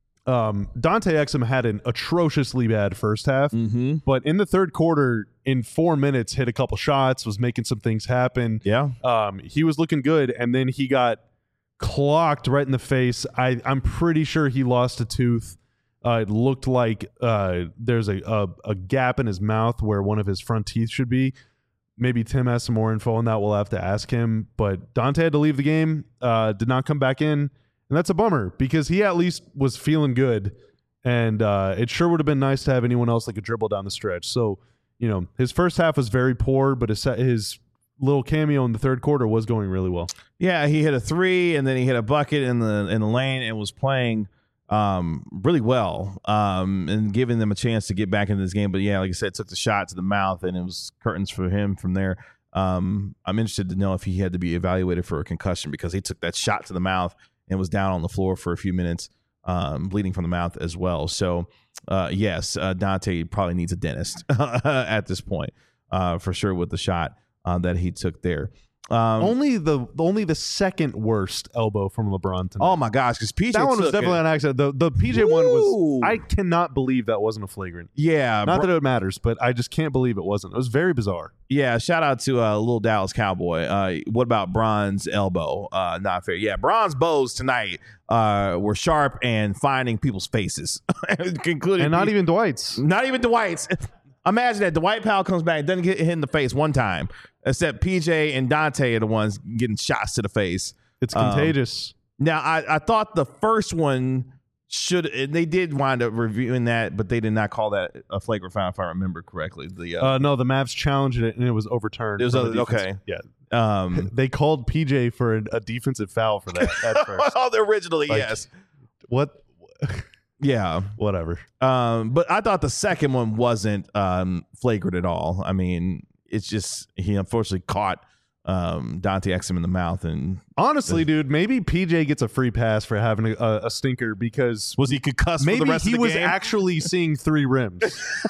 Um, Dante Exum had an atrociously bad first half, mm-hmm. but in the third quarter, in four minutes, hit a couple shots, was making some things happen. Yeah, um, he was looking good, and then he got clocked right in the face. I, I'm pretty sure he lost a tooth. Uh, it looked like uh, there's a, a a gap in his mouth where one of his front teeth should be. Maybe Tim has some more info on that. We'll have to ask him. But Dante had to leave the game, uh, did not come back in. And that's a bummer because he at least was feeling good. And uh, it sure would have been nice to have anyone else that could dribble down the stretch. So, you know, his first half was very poor, but his, his little cameo in the third quarter was going really well. Yeah, he hit a three, and then he hit a bucket in the in the lane and was playing um, really well um, and giving them a chance to get back into this game. But, yeah, like I said, took the shot to the mouth, and it was curtains for him from there. Um, I'm interested to know if he had to be evaluated for a concussion because he took that shot to the mouth and was down on the floor for a few minutes, um, bleeding from the mouth as well. So, uh, yes, uh, Dante probably needs a dentist at this point. uh, for sure with the shot uh, that he took there. Um, only the only the second worst elbow from LeBron tonight. oh my gosh, because P J that one was took definitely it. an accident. The the P J one was. Woo. I cannot believe that wasn't a flagrant. Yeah, Not bro- that it matters, but I just can't believe it wasn't. It was very bizarre. yeah. Shout out to uh, little Dallas Cowboy. Uh, what about Bron's elbow? Uh, not fair. Yeah, Bron's bows tonight uh, were sharp and finding people's faces, including And not even Dwight's. not even Dwight's. Imagine that Dwight Powell comes back, doesn't get hit in the face one time, except P J and Dante are the ones getting shots to the face. It's Um, contagious. Now, I, I thought the first one should they did wind up reviewing that, but they did not call that a flagrant foul, if I remember correctly. The uh, Uh, no, the Mavs challenged it and it was overturned. It was from a- the defense. okay. Yeah. um, They called P J for a, a defensive foul for that at first. oh, originally, Like, yes, What? yeah. Whatever. Um, but I thought the second one wasn't um, flagrant at all. I mean, it's just he unfortunately caught um, Dante Exum in the mouth, and Honestly, dude, maybe P J gets a free pass for having a, a stinker because was he concussed maybe for the rest he of the was game actually seeing three rims.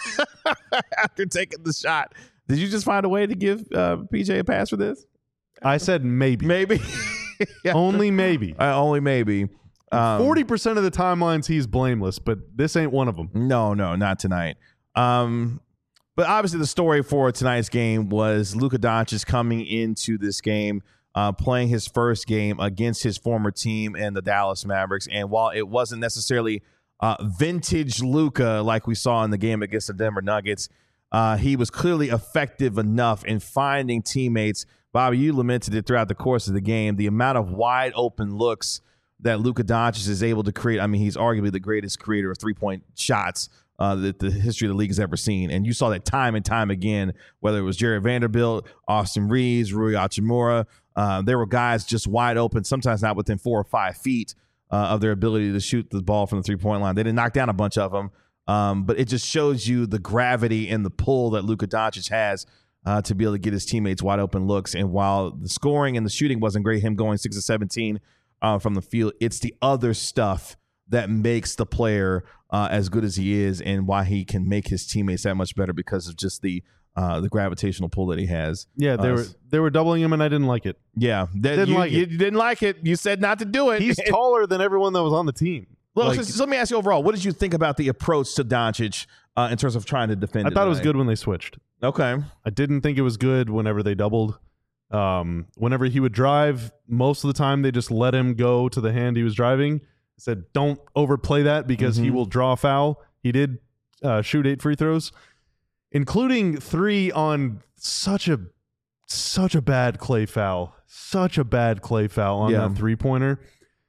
after taking the shot? Did you just find a way to give uh, P J a pass for this? I said maybe. Maybe, yeah. Only maybe. Uh, only maybe. Um, Forty percent of the timelines he's blameless, but this ain't one of them. No, no, not tonight. Um, but obviously, the story for tonight's game was Luka Doncic coming into this game, uh, playing his first game against his former team and the Dallas Mavericks. And while it wasn't necessarily uh, vintage Luka like we saw in the game against the Denver Nuggets, uh, he was clearly effective enough in finding teammates. Bobby, you lamented it throughout the course of the game. The amount of wide open looks that Luka Doncic is able to create. I mean, he's arguably the greatest creator of three-point shots uh, that the history of the league has ever seen. And you saw that time and time again, whether it was Jared Vanderbilt, Austin Reeves, Rui Hachimura. Uh, there were guys just wide open, sometimes not within four or five feet uh, of their ability to shoot the ball from the three-point line. They didn't knock down a bunch of them, um, but it just shows you the gravity and the pull that Luka Doncic has uh, to be able to get his teammates wide open looks. And while the scoring and the shooting wasn't great, him going six of seventeen Uh, from the field, it's the other stuff that makes the player uh, as good as he is, and why he can make his teammates that much better because of just the uh, the gravitational pull that he has. Yeah, they Uh, were they were doubling him, and I didn't like it. Yeah, that, Didn't you, like you, it. you didn't like it. You said not to do it. He's taller than everyone that was on the team. Well, Like, so, so let me ask you overall, what did you think about the approach to Doncic uh, in terms of trying to defend? I thought it was tonight? good when they switched. Okay, I didn't think it was good whenever they doubled. Um, whenever he would drive, most of the time they just let him go to the hand he was driving. I said, don't overplay that because he Mhm. will draw a foul. He did uh, shoot eight free throws, including three on such a such a bad Clay foul, such a bad Clay foul on Yeah. that three pointer.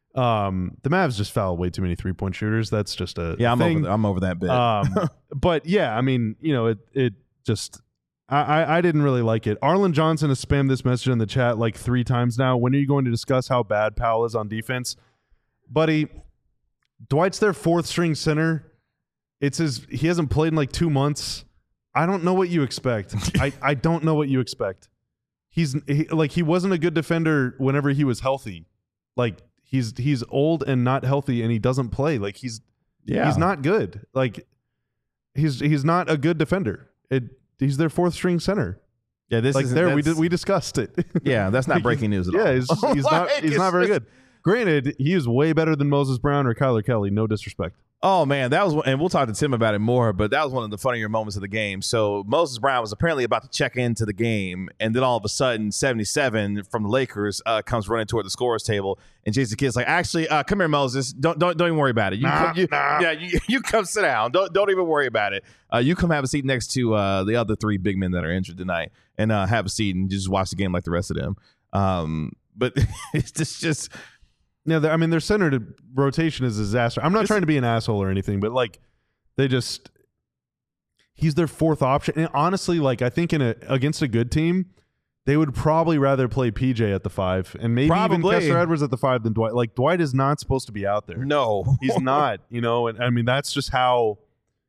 Um, the Mavs just foul way too many three point shooters. That's just a yeah, I'm thing. over. That. I'm over that bit. Um, but yeah, I mean, you know, it it just I, I I didn't really like it. Arlen Johnson has spammed this message in the chat like three times now. When are you going to discuss how bad Powell is on defense, buddy? Dwight's their fourth string center. It's his. He hasn't played in like two months. I don't know what you expect. I I don't know what you expect. He's he, like he wasn't a good defender whenever he was healthy. Like he's he's old and not healthy, and he doesn't play. Like he's yeah, he's not good. Like he's he's not a good defender. It he's their fourth string center. Yeah, this like is there we did we discussed it. Yeah, that's not Like, breaking news at yeah, all. he's, just- he's not Like, he's it's not very just- good. Granted, he is way better than Moses Brown or Kyler Kelly. No disrespect. Oh man, that was, and we'll talk to Tim about it more, but that was one of the funnier moments of the game. So Moses Brown was apparently about to check into the game, and then all of a sudden, seventy-seven from the Lakers uh, comes running toward the scorer's table, and Jason Kidd's like, "Actually, uh, come here, Moses. Don't don't don't even worry about it. You, Nah, come, you nah. yeah, you, you come sit down. Don't don't even worry about it. Uh, you come have a seat next to uh, the other three big men that are injured tonight, and uh, have a seat and just watch the game like the rest of them." Um, but it's just just. Yeah, I mean their center to rotation is a disaster. I'm not It's- trying to be an asshole or anything, but like they just he's their fourth option. And honestly, like I think in a against a good team, they would probably rather play P J at the five and maybe Probably. even Kessler Edwards at the five than Dwight. Like Dwight is not supposed to be out there. No, He's not, you know, and I mean that's just how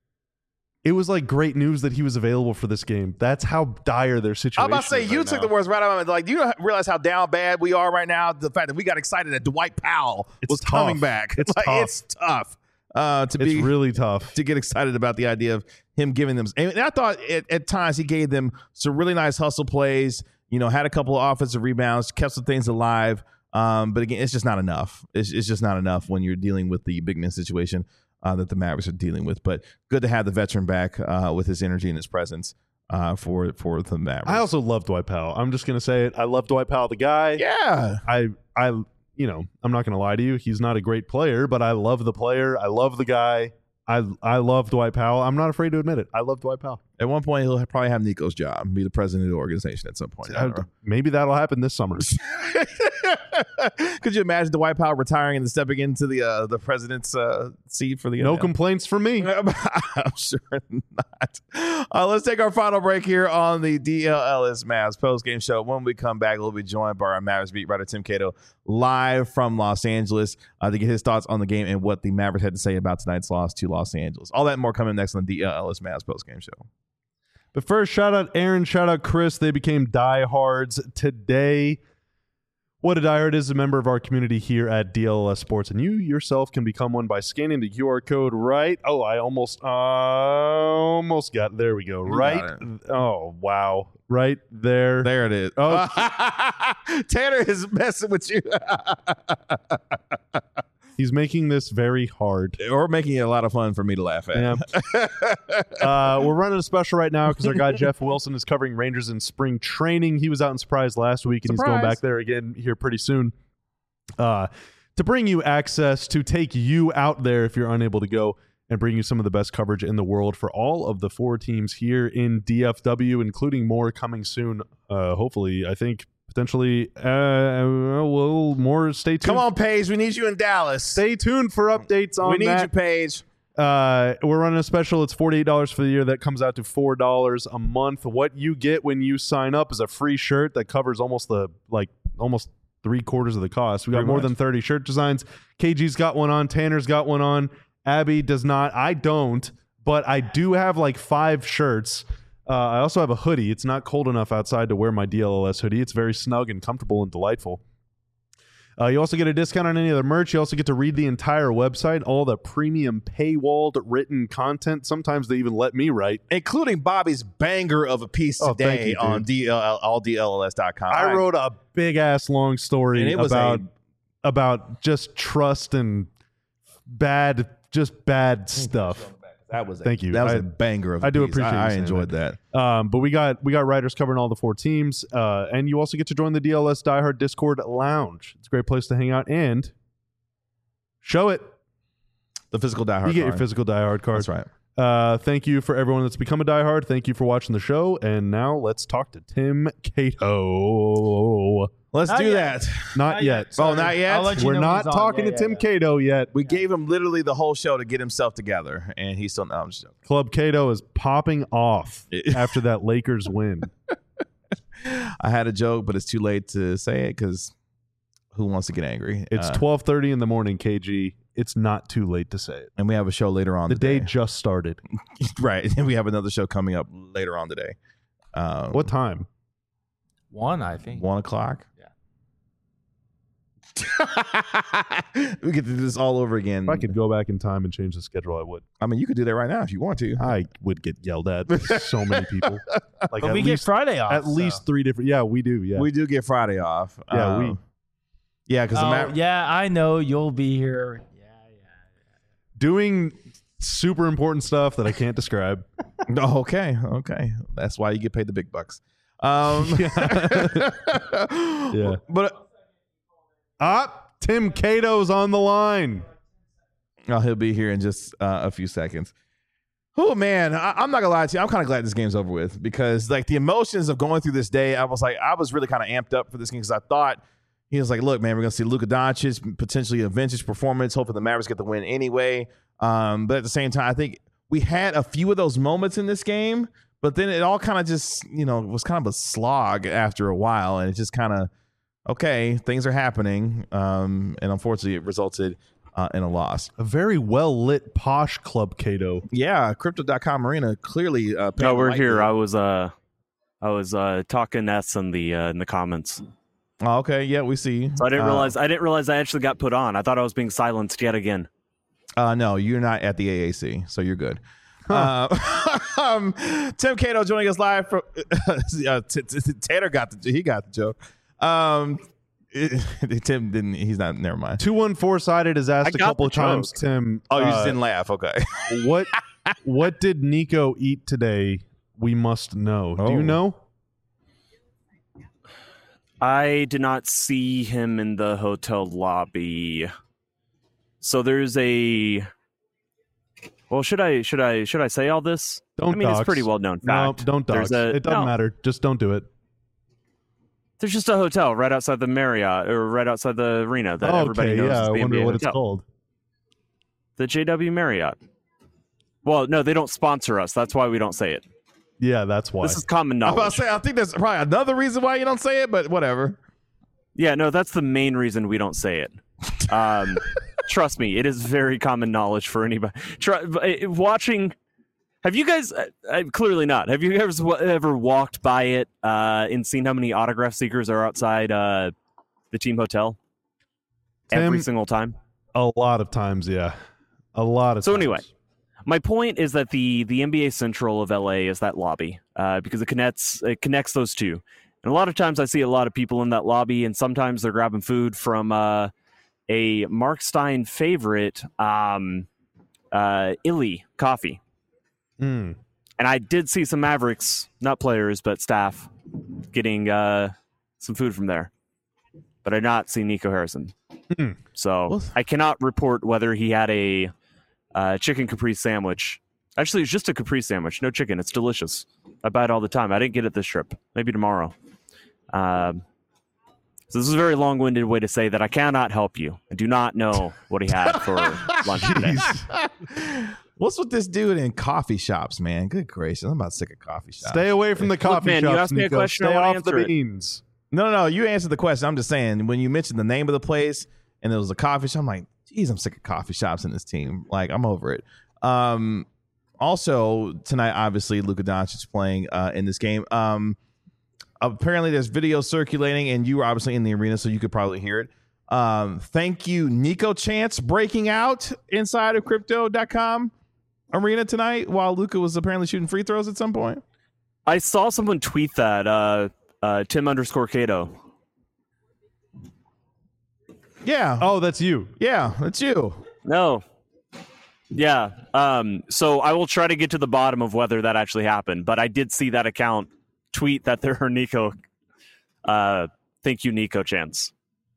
it was like great news that he was available for this game. That's how dire their situation I'm about to say is you right took now. the words right out of my. Like, do you realize how down bad we are right now? The fact that we got excited that Dwight Powell It's was tough. coming back. It's like, tough. It's tough. uh, to it's be really tough to get excited about the idea of him giving them. And I thought at, at times he gave them some really nice hustle plays. You know, had a couple of offensive rebounds, kept some things alive. Um, but again, it's just not enough. It's, it's just not enough when you're dealing with the big man situation uh, that the Mavericks are dealing with. But good to have the veteran back uh, with his energy and his presence. Uh, for for the Mavericks. I also love Dwight Powell. I'm just gonna say it. I love Dwight Powell, the guy. Yeah. I I you know, I'm not gonna lie to you. He's not a great player, but I love the player. I love the guy. I I love Dwight Powell. I'm not afraid to admit it. I love Dwight Powell. At one point, he'll probably have Nico's job and be the president of the organization at some point. I, maybe that'll happen this summer. Could you imagine Dwight Powell retiring and stepping into the uh, the president's uh, seat for the no N F L? complaints from me. I'm sure not. Uh, let's take our final break here on the D L L S Mavs post-game show. When we come back, we'll be joined by our Mavericks beat writer Tim Cato live from Los Angeles uh, to get his thoughts on the game and what the Mavericks had to say about tonight's loss to Los Angeles. All that and more coming next on the D L L S Mavs post-game show. But first, shout out Aaron, shout out Chris. They became diehards today. What a diehard is a member of our community here at D L L S Sports, and you yourself can become one by scanning the Q R code right. Oh, I almost, uh, almost got. There we go. You Right. Oh, wow. Right there. There it is. Oh, Tanner is messing with you. he's making this very hard. Or making it a lot of fun for me to laugh at. Yeah. uh, we're running a special right now because our guy Jeff Wilson is covering Rangers in spring training. He was out in Surprise last week, and Surprise. he's going back there again here pretty soon uh, to bring you access, to take you out there if you're unable to go, and bring you some of the best coverage in the world for all of the four teams here in D F W, including more coming soon. Uh, hopefully, I think potentially, uh, well, more. Stay tuned. Come on, Paige. We need you in Dallas. Stay tuned for updates on we need that. you, Paige. Uh, we're running a special. It's forty-eight dollars for the year. That comes out to four dollars a month. What you get when you sign up is a free shirt that covers almost the like almost three quarters of the cost. We got Pretty more much. than thirty shirt designs. K G's got one on. Tanner's got one on. Abby does not. I don't, but I do have like five shirts. Uh, I also have a hoodie. It's not cold enough outside to wear my D L L S hoodie. It's very snug and comfortable and delightful. Uh, you also get a discount on any other merch. You also get to read the entire website, all the premium paywalled written content. Sometimes they even let me write. Including Bobby's banger of a piece Oh, thank today you, dude. on D L L, all D L L S dot com. I wrote a big ass long story And it was about a- about just trust and bad, just bad stuff. That was a, Thank you. That was I- a banger of a I do piece. appreciate you I, I saying enjoyed that. Um, but we got we got writers covering all the four teams, uh, and you also get to join the D L S Diehard Discord Lounge. It's a great place to hang out and show it. The physical diehard You get your card. physical diehard card. That's right. Uh, thank you for everyone that's become a diehard. Thank you for watching the show. And now let's talk to Tim Cato. Let's Not do yet. that. Not yet. Oh, not yet? I'll let you We're know when not he's on. talking Yeah, to yeah, Tim yeah. Cato yet. We gave him literally the whole show to get himself together, and he's still. No, I'm just joking. Club Cato is popping off after that Lakers win. I had a joke, but it's too late to say it because who wants to get angry? It's Uh, twelve thirty in the morning, K G. It's not too late to say it. and we have a show later on The day today. just started. Right, and we have another show coming up later on today. Um, What time? One, I think. One o'clock. We get to do this all over again. If I could go back in time and change the schedule, I would. I mean, you could do that right now if you want to. I would get yelled at by so many people. Like But at we get least, Friday off. at so. least three different. Yeah, we do. Yeah. We do get Friday off. Yeah, Um, we- Yeah, because Oh, the Maver- yeah, I know you'll be here. Yeah, yeah. doing super important stuff that I can't describe. Oh, okay, okay. That's why you get paid the big bucks. Um, Yeah. But Ah, Tim Cato's on the line. oh, he'll be here in just uh, a few seconds. Oh man, I, I'm not gonna lie to you. I'm kind of glad this game's over with because like the emotions of going through this day, I was like, I was really kind of amped up for this game because I thought he was like, look, man, we're gonna see Luka Doncic potentially a vintage performance. Hopefully the Mavericks get the win anyway. Um, but at the same time, I think we had a few of those moments in this game, but then it all kind of just, you know, was kind of a slog after a while, and it just kind of okay, things are happening, um, and unfortunately, it resulted uh, in a loss. A very well lit posh Club Cato. Yeah, crypto dot com arena clearly. Uh, No, we're painted here. lightly. I was uh, I was uh talking S in the uh, in the comments, Oh, okay, yeah, we see. so I didn't Uh, realize I didn't realize I actually got put on. I thought I was being silenced yet again. Uh, no, you're not at the A A C, so you're good. Huh. Uh, um, Tim Cato joining us live from uh, t- t- Tater got the he got the joke. Um, it, Tim didn't. He's not. Never mind. Two one four sided has asked a couple of times. joke. Tim, Oh, you uh, just didn't laugh. Okay. what what did Nico eat today? We must know. Oh. Do you know? I did not see him in the hotel lobby. So there's a. Well, should I should I should I say all this? Don't. I mean, dox. it's pretty well known No, fact. don't dox. There's a- It doesn't no. matter. Just don't do it. There's just a hotel right outside the Marriott or right outside the arena that everybody okay, knows yeah. is I the N B wonder A what it's hotel. called. The J W Marriott. Well, no, they don't sponsor us. That's why we don't say it. Yeah, that's why. This is common I was about knowledge. to say. I think there's probably another reason why you don't say it, but whatever. Yeah, no, that's the main reason we don't say it. Um, trust me, it is very common knowledge for anybody. Try, uh, watching, have you guys, uh, uh, clearly not, have you guys w- ever walked by it uh, and seen how many autograph seekers are outside uh, the team hotel? Tim, Every single time? a lot of times, yeah. A lot of So times. anyway, my point is that the, the N B A Central of L A is that lobby uh, because it connects, it connects those two. And a lot of times I see a lot of people in that lobby, and sometimes they're grabbing food from uh, a Mark Stein favorite, um, uh, Illy Coffee. Mm. And I did see some Mavericks, not players, but staff, getting uh, some food from there. But I did not see Nico Harrison. Hmm. So Well- I cannot report whether he had a uh, chicken caprese sandwich. Actually, it's just a caprese sandwich. No chicken. It's delicious. I buy it all the time. I didn't get it this trip. Maybe tomorrow. Um, so this is a very long-winded way to say that I cannot help you. I do not know what he had for lunch today. What's with this dude in coffee shops, man? Good gracious, I'm about sick of coffee shops. Stay away from the coffee man, you shops, asked me a Nico. question, I Stay wanna off answer the it. beans. No, no, no. You answered the question. I'm just saying when you mentioned the name of the place and there was a coffee shop, I'm like, geez, I'm sick of coffee shops in this team. Like, I'm over it. Um, also tonight, obviously, Luka Doncic is playing uh, in this game. Um, apparently, there's video circulating, and you were obviously in the arena, so you could probably hear it. Um, thank you, Nico Chance, breaking out inside of crypto dot com arena tonight while Luka was apparently shooting free throws at some point. I saw someone tweet that, uh, uh, Tim underscore Cato. Yeah. Oh, that's you. Yeah, that's you. No. Yeah. Um, so I will try to get to the bottom of whether that actually happened, but I did see that account tweet that there are Nico. Uh, thank you, Nico Chance.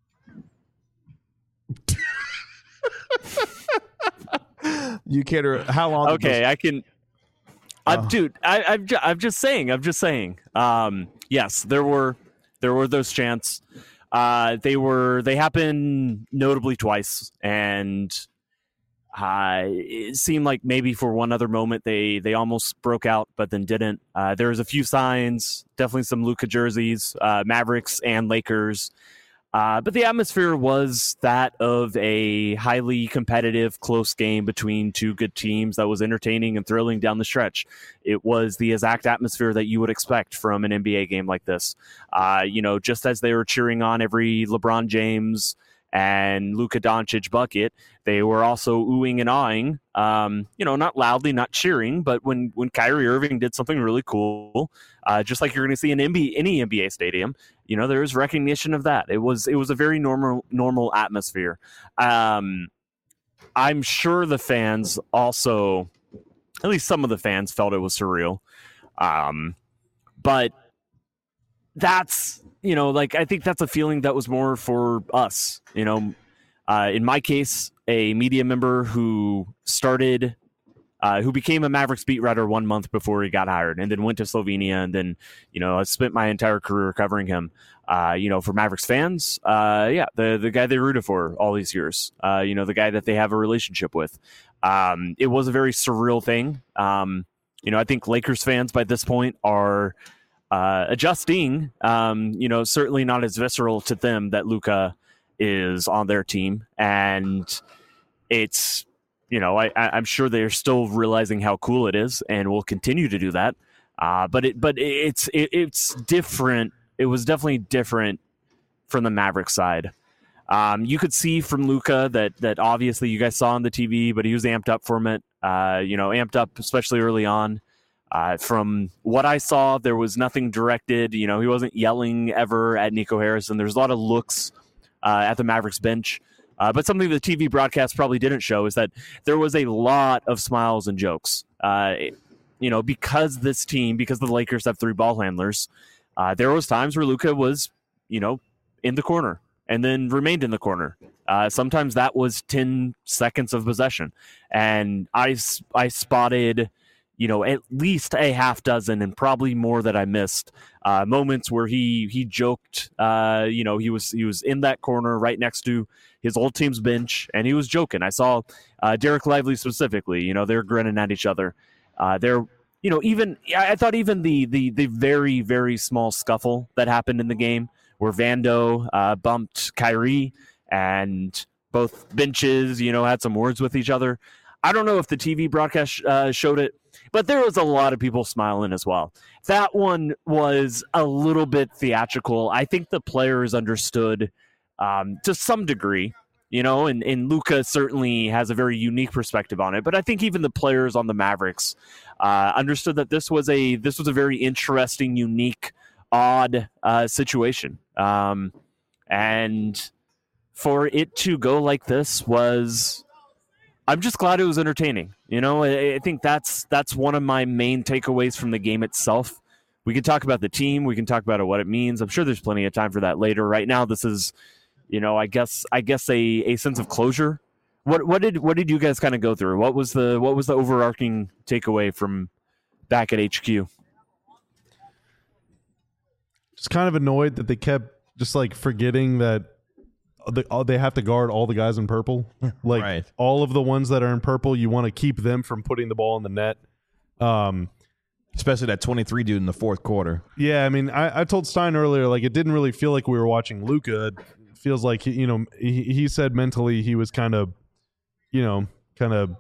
You care to how long? did Okay, those- I can. Oh. I'm, dude, I, I'm, ju- I'm just saying. I'm just saying. Um, yes, there were, there were those chants. Uh, they were, they happened notably twice, and uh, it seemed like maybe for one other moment they, they almost broke out, but then didn't. Uh, there was a few signs, definitely some Luka jerseys, uh, Mavericks and Lakers. Uh, but the atmosphere was that of a highly competitive, close game between two good teams that was entertaining and thrilling down the stretch. It was the exact atmosphere that you would expect from an N B A game like this. Uh, you know, just as they were cheering on every LeBron James and Luka Doncic bucket, they were also oohing and awing. Um, you know, not loudly, not cheering, but when when Kyrie Irving did something really cool, uh, just like you're going to see in N B A, any N B A stadium, you know, there was recognition of that. It was it was a very normal normal atmosphere. Um, I'm sure the fans also, at least some of the fans, felt it was surreal. Um, but that's, you know, like, I think that's a feeling that was more for us, you know. Uh, in my case, a media member who started, uh, who became a Mavericks beat writer one month before he got hired, and then went to Slovenia, and then, you know, I spent my entire career covering him. Uh, you know, for Mavericks fans, uh, yeah, the the guy they rooted for all these years, uh, you know, the guy that they have a relationship with. Um, it was a very surreal thing. Um, you know, I think Lakers fans by this point are uh, adjusting. Um, you know, certainly not as visceral to them that Luka is on their team, and it's, you know, I, I'm sure they're still realizing how cool it is, and will continue to do that. Uh, but it, but it's it, it's different. It was definitely different from the Mavericks side. Um, you could see from Luka that that obviously you guys saw on the T V, but he was amped up from it. Uh, you know, amped up especially early on. Uh, from what I saw, there was nothing directed. You know, he wasn't yelling ever at Nico Harrison. There's a lot of looks uh, at the Mavericks bench. Uh, but something the T V broadcast probably didn't show is that there was a lot of smiles and jokes. Uh, you know, because this team, because the Lakers have three ball handlers, uh, there was times where Luka was, you know, in the corner and then remained in the corner. Uh, sometimes that was ten seconds of possession. And I, I spotted, you know, at least a half dozen and probably more that I missed uh, moments where he he joked. Uh, you know, he was he was in that corner right next to his old team's bench, and he was joking. I saw uh, Derek Lively specifically. You know, they're grinning at each other. Uh, they're you know even I thought even the the the very very small scuffle that happened in the game where Vando uh, bumped Kyrie and both benches you know had some words with each other. I don't know if the T V broadcast uh, showed it, but there was a lot of people smiling as well. That one was a little bit theatrical. I think the players understood um, to some degree, you know, and, and Luka certainly has a very unique perspective on it. But I think even the players on the Mavericks uh, understood that this was a this was a very interesting, unique, odd uh, situation. Um, and for it to go like this was... I'm just glad it was entertaining. You know, I, I think that's that's one of my main takeaways from the game itself. We can talk about the team. We can talk about what it means. I'm sure there's plenty of time for that later. Right now, this is, you know, I guess I guess a, a sense of closure. What what did what did you guys kind of go through? What was the what was the overarching takeaway from back at H Q? Just kind of annoyed that they kept just like forgetting that They, they have to guard all the guys in purple. Like Right. all of the ones that are in purple, you want to keep them from putting the ball in the net. Um, Especially that twenty-three dude in the fourth quarter. yeah, I mean, I, I told Stein earlier, like it didn't really feel like we were watching Luka. It feels like he, you know, he, he said mentally he was kind of, you know, kind of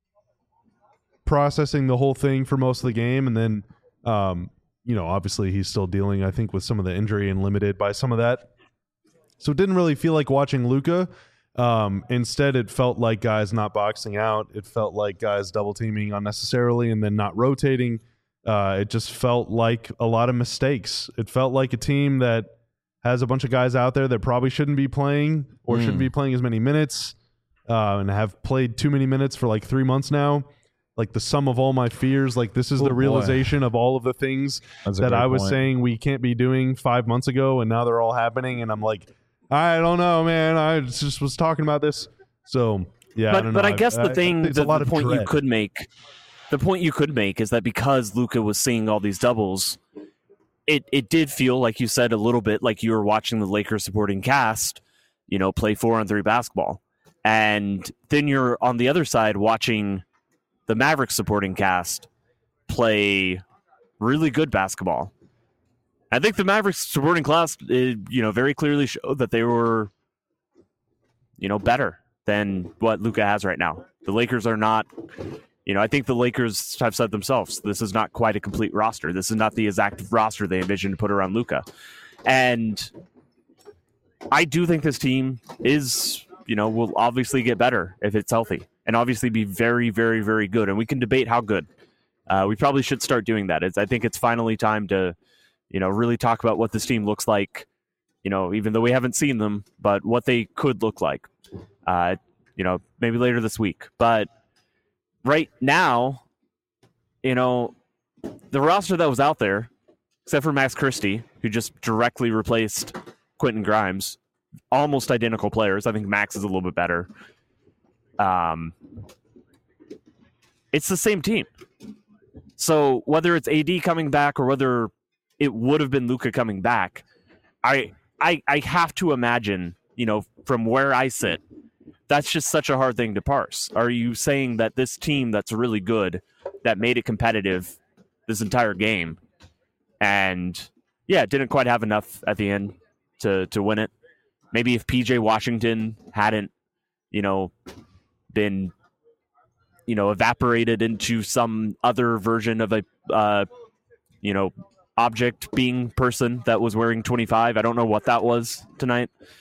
processing the whole thing for most of the game, and then, um, you know, obviously he's still dealing, I think, with some of the injury and limited by some of that. So it didn't really feel like watching Luka. Um, instead, it felt like guys not boxing out. It felt like guys double teaming unnecessarily and then not rotating. Uh, it just felt like a lot of mistakes. It felt like a team that has a bunch of guys out there that probably shouldn't be playing or Mm. shouldn't be playing as many minutes uh, and have played too many minutes for like three months now. Like the sum of all my fears. Like this is Oh, the boy. realization of all of the things That's a that great I was point. saying we can't be doing five months ago, and now they're all happening. And I'm like, I don't know, man. I just was talking about this. So, yeah, I But don't but know. I guess the thing, it's the, a lot the of point you dread. could make, the point you could make is that because Luka was seeing all these doubles, it it did feel like you said a little bit like you were watching the Lakers supporting cast, you know, play four on three basketball, and then you're on the other side watching the Mavericks supporting cast play really good basketball. I think the Mavericks supporting class, uh, you know, very clearly showed that they were, you know, better than what Luka has right now. The Lakers are not, you know, I think the Lakers have said themselves, this is not quite a complete roster. This is not the exact roster they envisioned to put around Luka. And I do think this team is, you know, will obviously get better if it's healthy and obviously be very, very, very good. And we can debate how good. Uh, we probably should start doing that. It's, I think it's finally time to, you know, really talk about what this team looks like, you know, even though we haven't seen them, but what they could look like, uh, you know, maybe later this week. But right now, you know, the roster that was out there, except for Max Christie, who just directly replaced Quentin Grimes, almost identical players. I think Max is a little bit better. Um, it's the same team. So whether it's A D coming back or whether it would have been Luka coming back, I, I I have to imagine, you know, from where I sit, that's just such a hard thing to parse. Are you saying that this team that's really good, that made it competitive this entire game, and yeah, didn't quite have enough at the end to to win it? Maybe if P J Washington hadn't, you know, been, you know, evaporated into some other version of a, uh, you know, object being person that was wearing twenty-five. I don't know what that was tonight.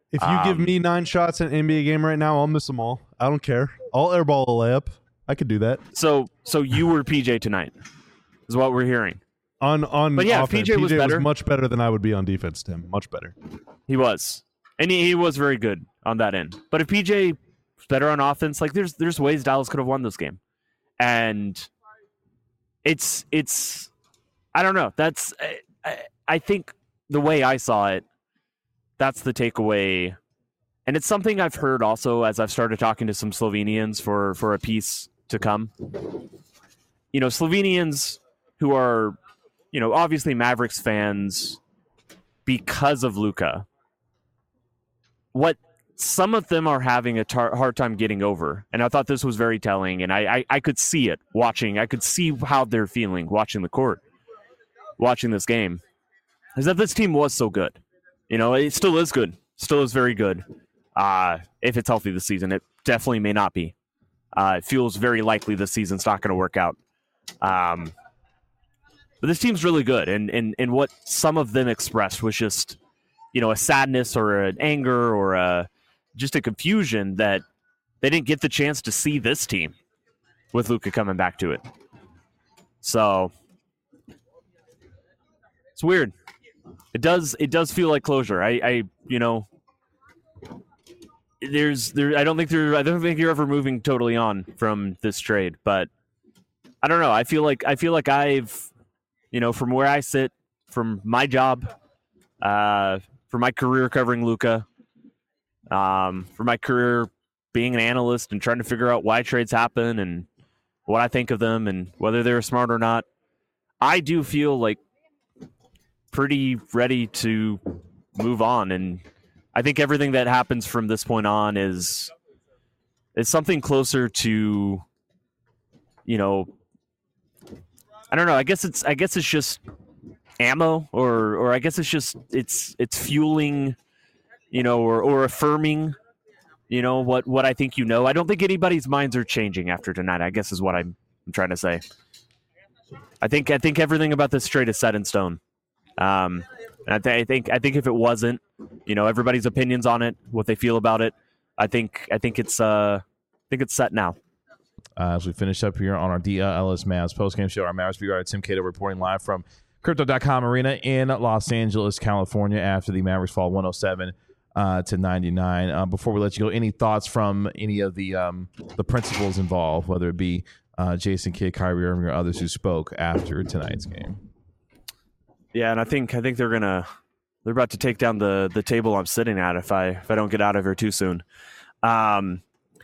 If you Um, give me nine shots in an N B A game right now, I'll miss them all. I don't care. I'll airball a layup. I could do that. So so you were P J tonight, is what we're hearing. On on But yeah, offense, P J was better. much better than I would be on defense, Tim. Much better. He was, and he, he was very good on that end. But if P J was better on offense, like there's there's ways Dallas could have won this game, and it's it's I don't know. That's I, I, I think the way I saw it, that's the takeaway, and it's something I've heard also as I've started talking to some Slovenians for for a piece to come. You know, Slovenians who are, you know, obviously Mavericks fans because of Luka. What some of them are having a tar- hard time getting over, and I thought this was very telling, and I, I, I could see it watching. I could see how they're feeling watching the court, watching this game, is that this team was so good. You know, it still is good, still is very good. Uh, if it's healthy this season, it definitely may not be. Uh, it feels very likely this season's not going to work out. Um, but this team's really good, and, and and what some of them expressed was just, you know, a sadness or an anger or a just a confusion that they didn't get the chance to see this team with Luka coming back to it. So it's weird. It does it does feel like closure. I, I you know, there's there I don't think there I don't think you're ever moving totally on from this trade, but I don't know. I feel like I feel like I've, you know, from where I sit, from my job, uh, for my career covering Luka, um, for my career being an analyst and trying to figure out why trades happen and what I think of them and whether they're smart or not, I do feel like pretty ready to move on. And I think everything that happens from this point on is is something closer to, you know, I don't know. I guess it's I guess it's just ammo, or or I guess it's just it's it's fueling, you know, or or affirming, you know, what what I think you know. I don't think anybody's minds are changing after tonight, I guess is what I'm, I'm trying to say. I think I think everything about this trade is set in stone. Um, and I, th- I think I think if it wasn't, you know, everybody's opinions on it, what they feel about it, I think I think it's uh I think it's set now. Uh, as we finish up here on our D L S Mavs postgame show, our Mavs beat writer Tim Cato reporting live from Crypto dot com Arena in Los Angeles, California, after the Mavericks fall one oh seven uh, to ninety-nine. Uh, before we let you go, any thoughts from any of the um, the principals involved, whether it be uh, Jason Kidd, Kyrie Irving, or others who spoke after tonight's game? Yeah, and I think I think they're gonna they're about to take down the the table I'm sitting at if I if I don't get out of here too soon. Um,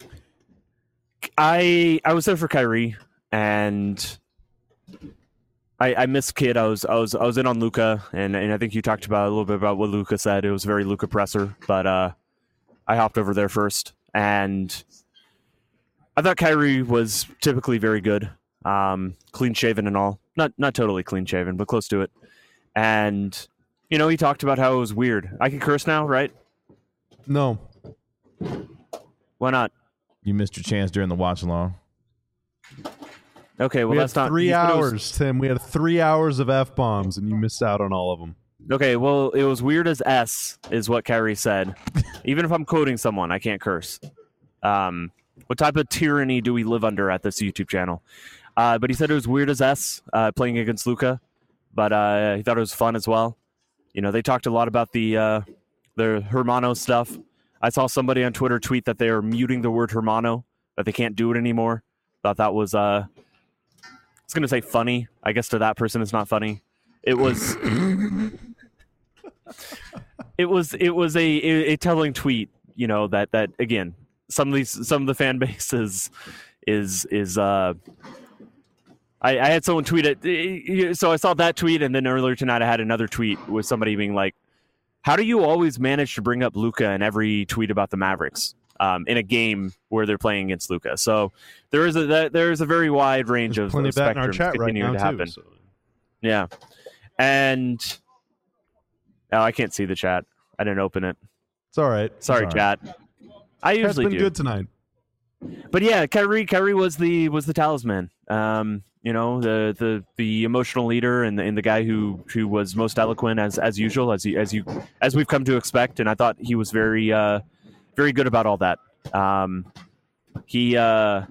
I I was there for Kyrie, and I I missed Kidd. I was I was I was in on Luka, and and I think you talked about a little bit about what Luka said. It was very Luka presser, but uh, I hopped over there first, and I thought Kyrie was typically very good, um, clean shaven and all. Not not totally clean shaven, but close to it. And you know, he talked about how it was weird. I can curse now, right? No. Why not? You missed your chance during the watch along. Okay, well we that's had not three you said it hours, was- Tim. We had three hours of F bombs, and you missed out on all of them. Okay, well, it was weird as S, is what Kyrie said. Even if I'm quoting someone, I can't curse. Um, what type of tyranny do we live under at this YouTube channel? Uh, but he said it was weird as S, uh, playing against Luka, but uh, he thought it was fun as well. You know, they talked a lot about the uh, the Hermano stuff. I saw somebody on Twitter tweet that they are muting the word Hermano, that they can't do it anymore. Thought that was, uh, I was going to say funny. I guess to that person it's not funny. It was... It was it was a, a, a telling tweet, you know, that, that again, some of these some of the fan base is is is uh I, I had someone tweet it, so I saw that tweet, and then earlier tonight I had another tweet with somebody being like, how do you always manage to bring up Luka in every tweet about the Mavericks um, in a game where they're playing against Luka? So there is a there is a very wide range There's of, plenty of of that in our spectrums chat right continuing now to happen. too. So. Yeah, and oh, I can't see the chat. I didn't open it. It's all right. Sorry, It's all right. chat. I It's usually been do. good tonight. But yeah, Kyrie, Kyrie was the was the talisman. Um, You know, the the the emotional leader and the, and the guy who who was most eloquent as as usual, as you, as you as we've come to expect. And I thought he was very uh, very good about all that. Um, he uh,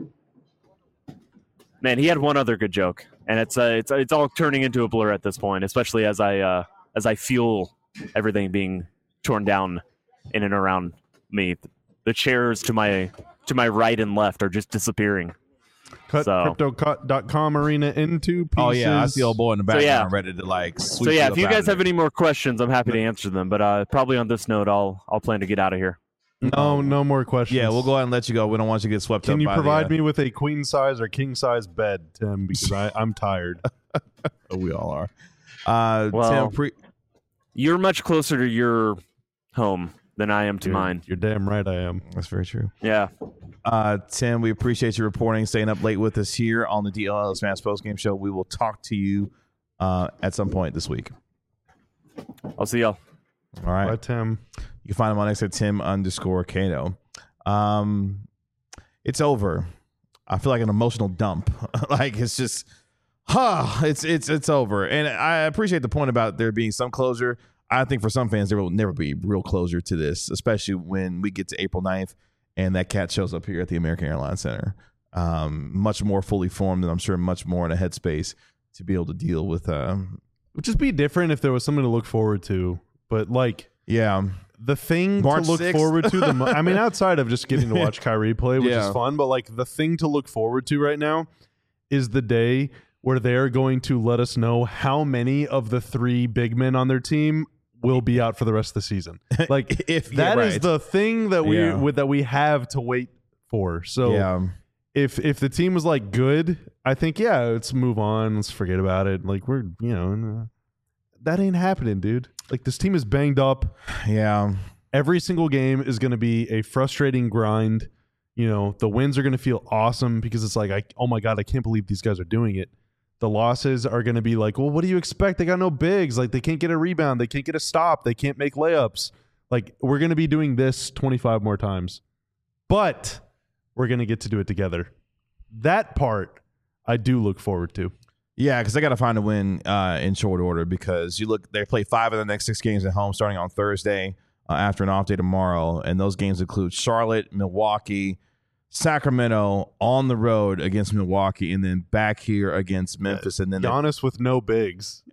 man, he had one other good joke, and it's uh, it's it's all turning into a blur at this point, especially as I uh, as I feel everything being torn down in and around me. The chairs to my to my right and left are just disappearing. Cut So- crypto dot com arena into pieces. Oh yeah, I see old boy in the background yeah. ready to like. Sweep So yeah, you if you up guys out of have there. any more questions, I'm happy to answer them. But uh, probably on this note, I'll I'll plan to get out of here. No, no more questions. yeah, we'll go ahead and let you go. We don't want you to get swept Can up. you by provide the, uh, me with a queen size or king size bed, Tim? Because I, I'm tired. We all are. Uh, Well- Tim, pre- You're much closer to your home than I am to You're- mine. You're damn right I am. that's very true. Yeah. Uh, Tim, we appreciate you reporting, staying up late with us here on the D L L S Mass Post Game Show. We will talk to you uh, at some point this week. I'll see y'all. All right. Bye, Tim. You can find him on X at Tim underscore Kato. Um, it's over. I feel like an emotional dump. Like it's just, huh? It's it's it's over. And I appreciate the point about there being some closure. I think for some fans there will never be real closure to this, especially when we get to April ninth and that cat shows up here at the American Airlines Center. Um, much more fully formed, and I'm sure much more in a headspace to be able to deal with. Uh, Would just be different if there was something to look forward to. But like yeah, the thing March to look sixth. forward to, the mo- I mean, outside of just getting to watch Kyrie play, which Yeah. is fun, but like the thing to look forward to right now is the day where they're going to let us know how many of the three big men on their team will be out for the rest of the season. Like If- yeah, that is right. the thing that we Yeah. with that we have to wait for. So yeah. if if the team was like good, I think yeah, let's move on, let's forget about it. Like we're you know, uh, that ain't happening, dude. Like this team is banged up. Yeah. Every single game is going to be a frustrating grind. You know, the wins are going to feel awesome because it's like, I, oh my God, I can't believe these guys are doing it. The losses are going to be like, well, what do you expect? They got no bigs. Like they can't get a rebound. They can't get a stop. They can't make layups. Like we're going to be doing this twenty-five more times, but we're going to get to do it together. That part I do look forward to. Yeah, because they got to find a win uh, in short order because you look, they play five of the next six games at home starting on Thursday uh, after an off day tomorrow. And those games include Charlotte, Milwaukee, Sacramento on the road against Milwaukee, and then back here against Memphis. And then they- Giannis with no bigs.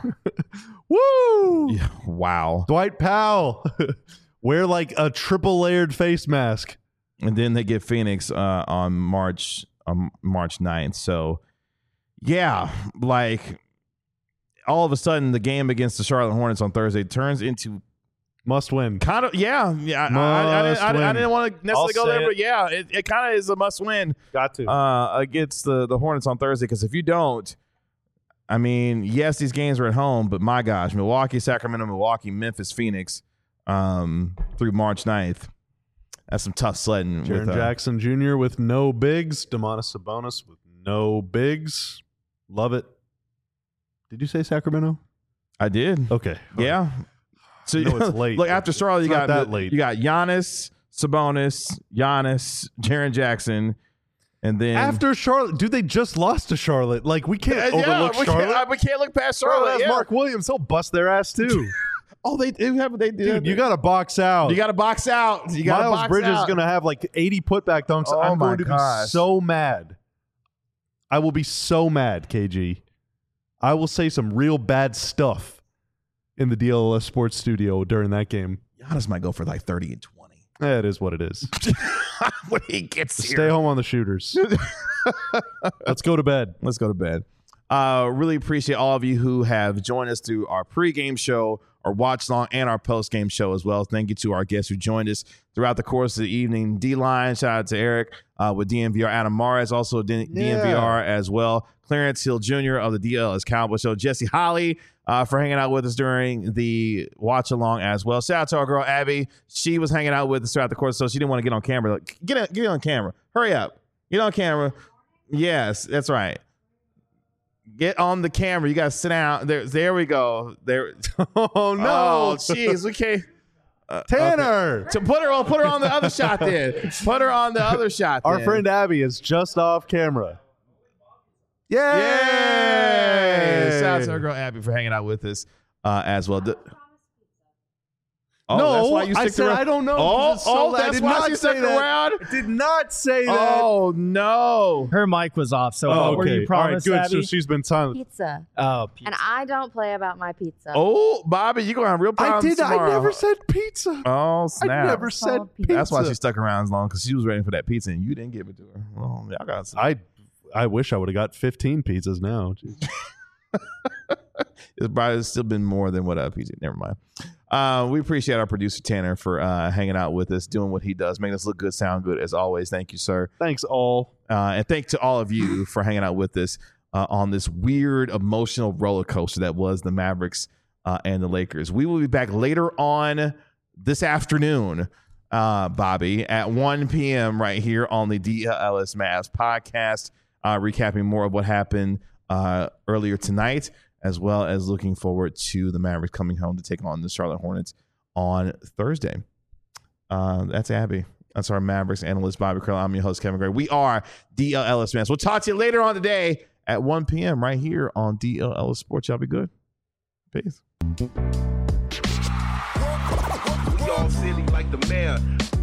Woo! Yeah, wow. Dwight Powell. Wear like a triple layered face mask. And then they get Phoenix uh, on March um, March ninth. So, yeah, like all of a sudden the game against the Charlotte Hornets on Thursday turns into Must win. kind of, yeah, yeah. I, I, I, didn't, I, didn't, I Must didn't want to necessarily I'll go there, say but it. yeah, it, it kind of is a must win Got to. uh, against the, the Hornets on Thursday because if you don't, I mean, yes, these games are at home, but my gosh, Milwaukee, Sacramento, Milwaukee, Memphis, Phoenix um, through March ninth. That's some tough sledding. Jaren with, uh, Jackson Junior with no bigs. Demonis Sabonis with no bigs. Love it. Did you say Sacramento? I did. Okay. Yeah. So I know it's late, Look, but after Charlotte, you it's got not that late. You got Giannis, Sabonis, Giannis, Jaren Jackson, and then After Charlotte, dude, they just lost to Charlotte. Like we can't Uh, yeah, overlook we Charlotte. Can't, we can't look past Charlotte Charlotte. has yeah. Mark Williams. He'll bust their ass too. Oh, they do have. They do. Dude, you got to box out. You got to box out. You got Miles box Bridges out. is going to have like eighty putback dunks. Oh I'm my going to gosh. be so mad. I will be so mad, K G. I will say some real bad stuff in the D L L S Sports Studio during that game. Giannis might go for like thirty and twenty Eh, it is what it is. when he gets here. Stay home on the shooters. Let's go to bed. Let's go to bed. Uh, really appreciate all of you who have joined us through our pregame show, our watch long, and our postgame show as well. Thank you to our guests who joined us throughout the course of the evening. D-Line, shout out to Eric uh, with D N V R. Adam Mares, also D- Yeah. DNVR as well. Clarence Hill Junior of the D L S Cowboy Show. Jesse Holly uh, for hanging out with us during the watch along as well. Shout out to our girl Abby. She was hanging out with us throughout the course, so she didn't want to get on camera. Like, get on, get on camera. Hurry up. Get on camera. Yes, that's right. Get on the camera. You got to sit down. There, there we go. There. Oh, no. Oh, jeez. We can't. Uh, Tanner. So put her on. Put her on the other shot. Then put her on the other shot. Our then. friend Abby is just off camera. Yay! Yay! Shout out to our girl Abby for hanging out with us uh, as well. The- oh, no, that's why you I stick said around. I don't know. Oh, So oh, I that's did why not she say stuck that. around. I did not say that. Oh no! Her mic was off. So Oh, what were okay. you promised, All right, good. Abby? So she's been silent. Pizza. oh, pizza. And I don't play about my pizza. Oh, Bobby, you gonna have real I problems did. tomorrow. I never said pizza. Oh I snap! never said called pizza. pizza. That's why she stuck around as long because she was waiting for that pizza and you didn't give it to her. Well, y'all got some. I I wish I would have got fifteen pizzas now. Jeez. It's probably still been more than what uh, P J. Never mind. Uh, we appreciate our producer Tanner for uh, hanging out with us, doing what he does, making us look good, sound good as always. Thank you, sir. Thanks all. Uh, and thanks to all of you for hanging out with us uh, on this weird emotional roller coaster that was the Mavericks uh, and the Lakers. We will be back later on this afternoon, uh, Bobby, at one p.m. right here on the D L L S Mavs podcast, uh, recapping more of what happened uh, earlier tonight, as well as looking forward to the Mavericks coming home to take on the Charlotte Hornets on Thursday. Uh, that's Abby. That's our Mavericks analyst, Bobby Curl. I'm your host, Kevin Gray. We are D L L S Mavs. We'll talk to you later on today at one p.m. right here on D L L S Sports. Y'all be good. Peace. We all silly like the mayor.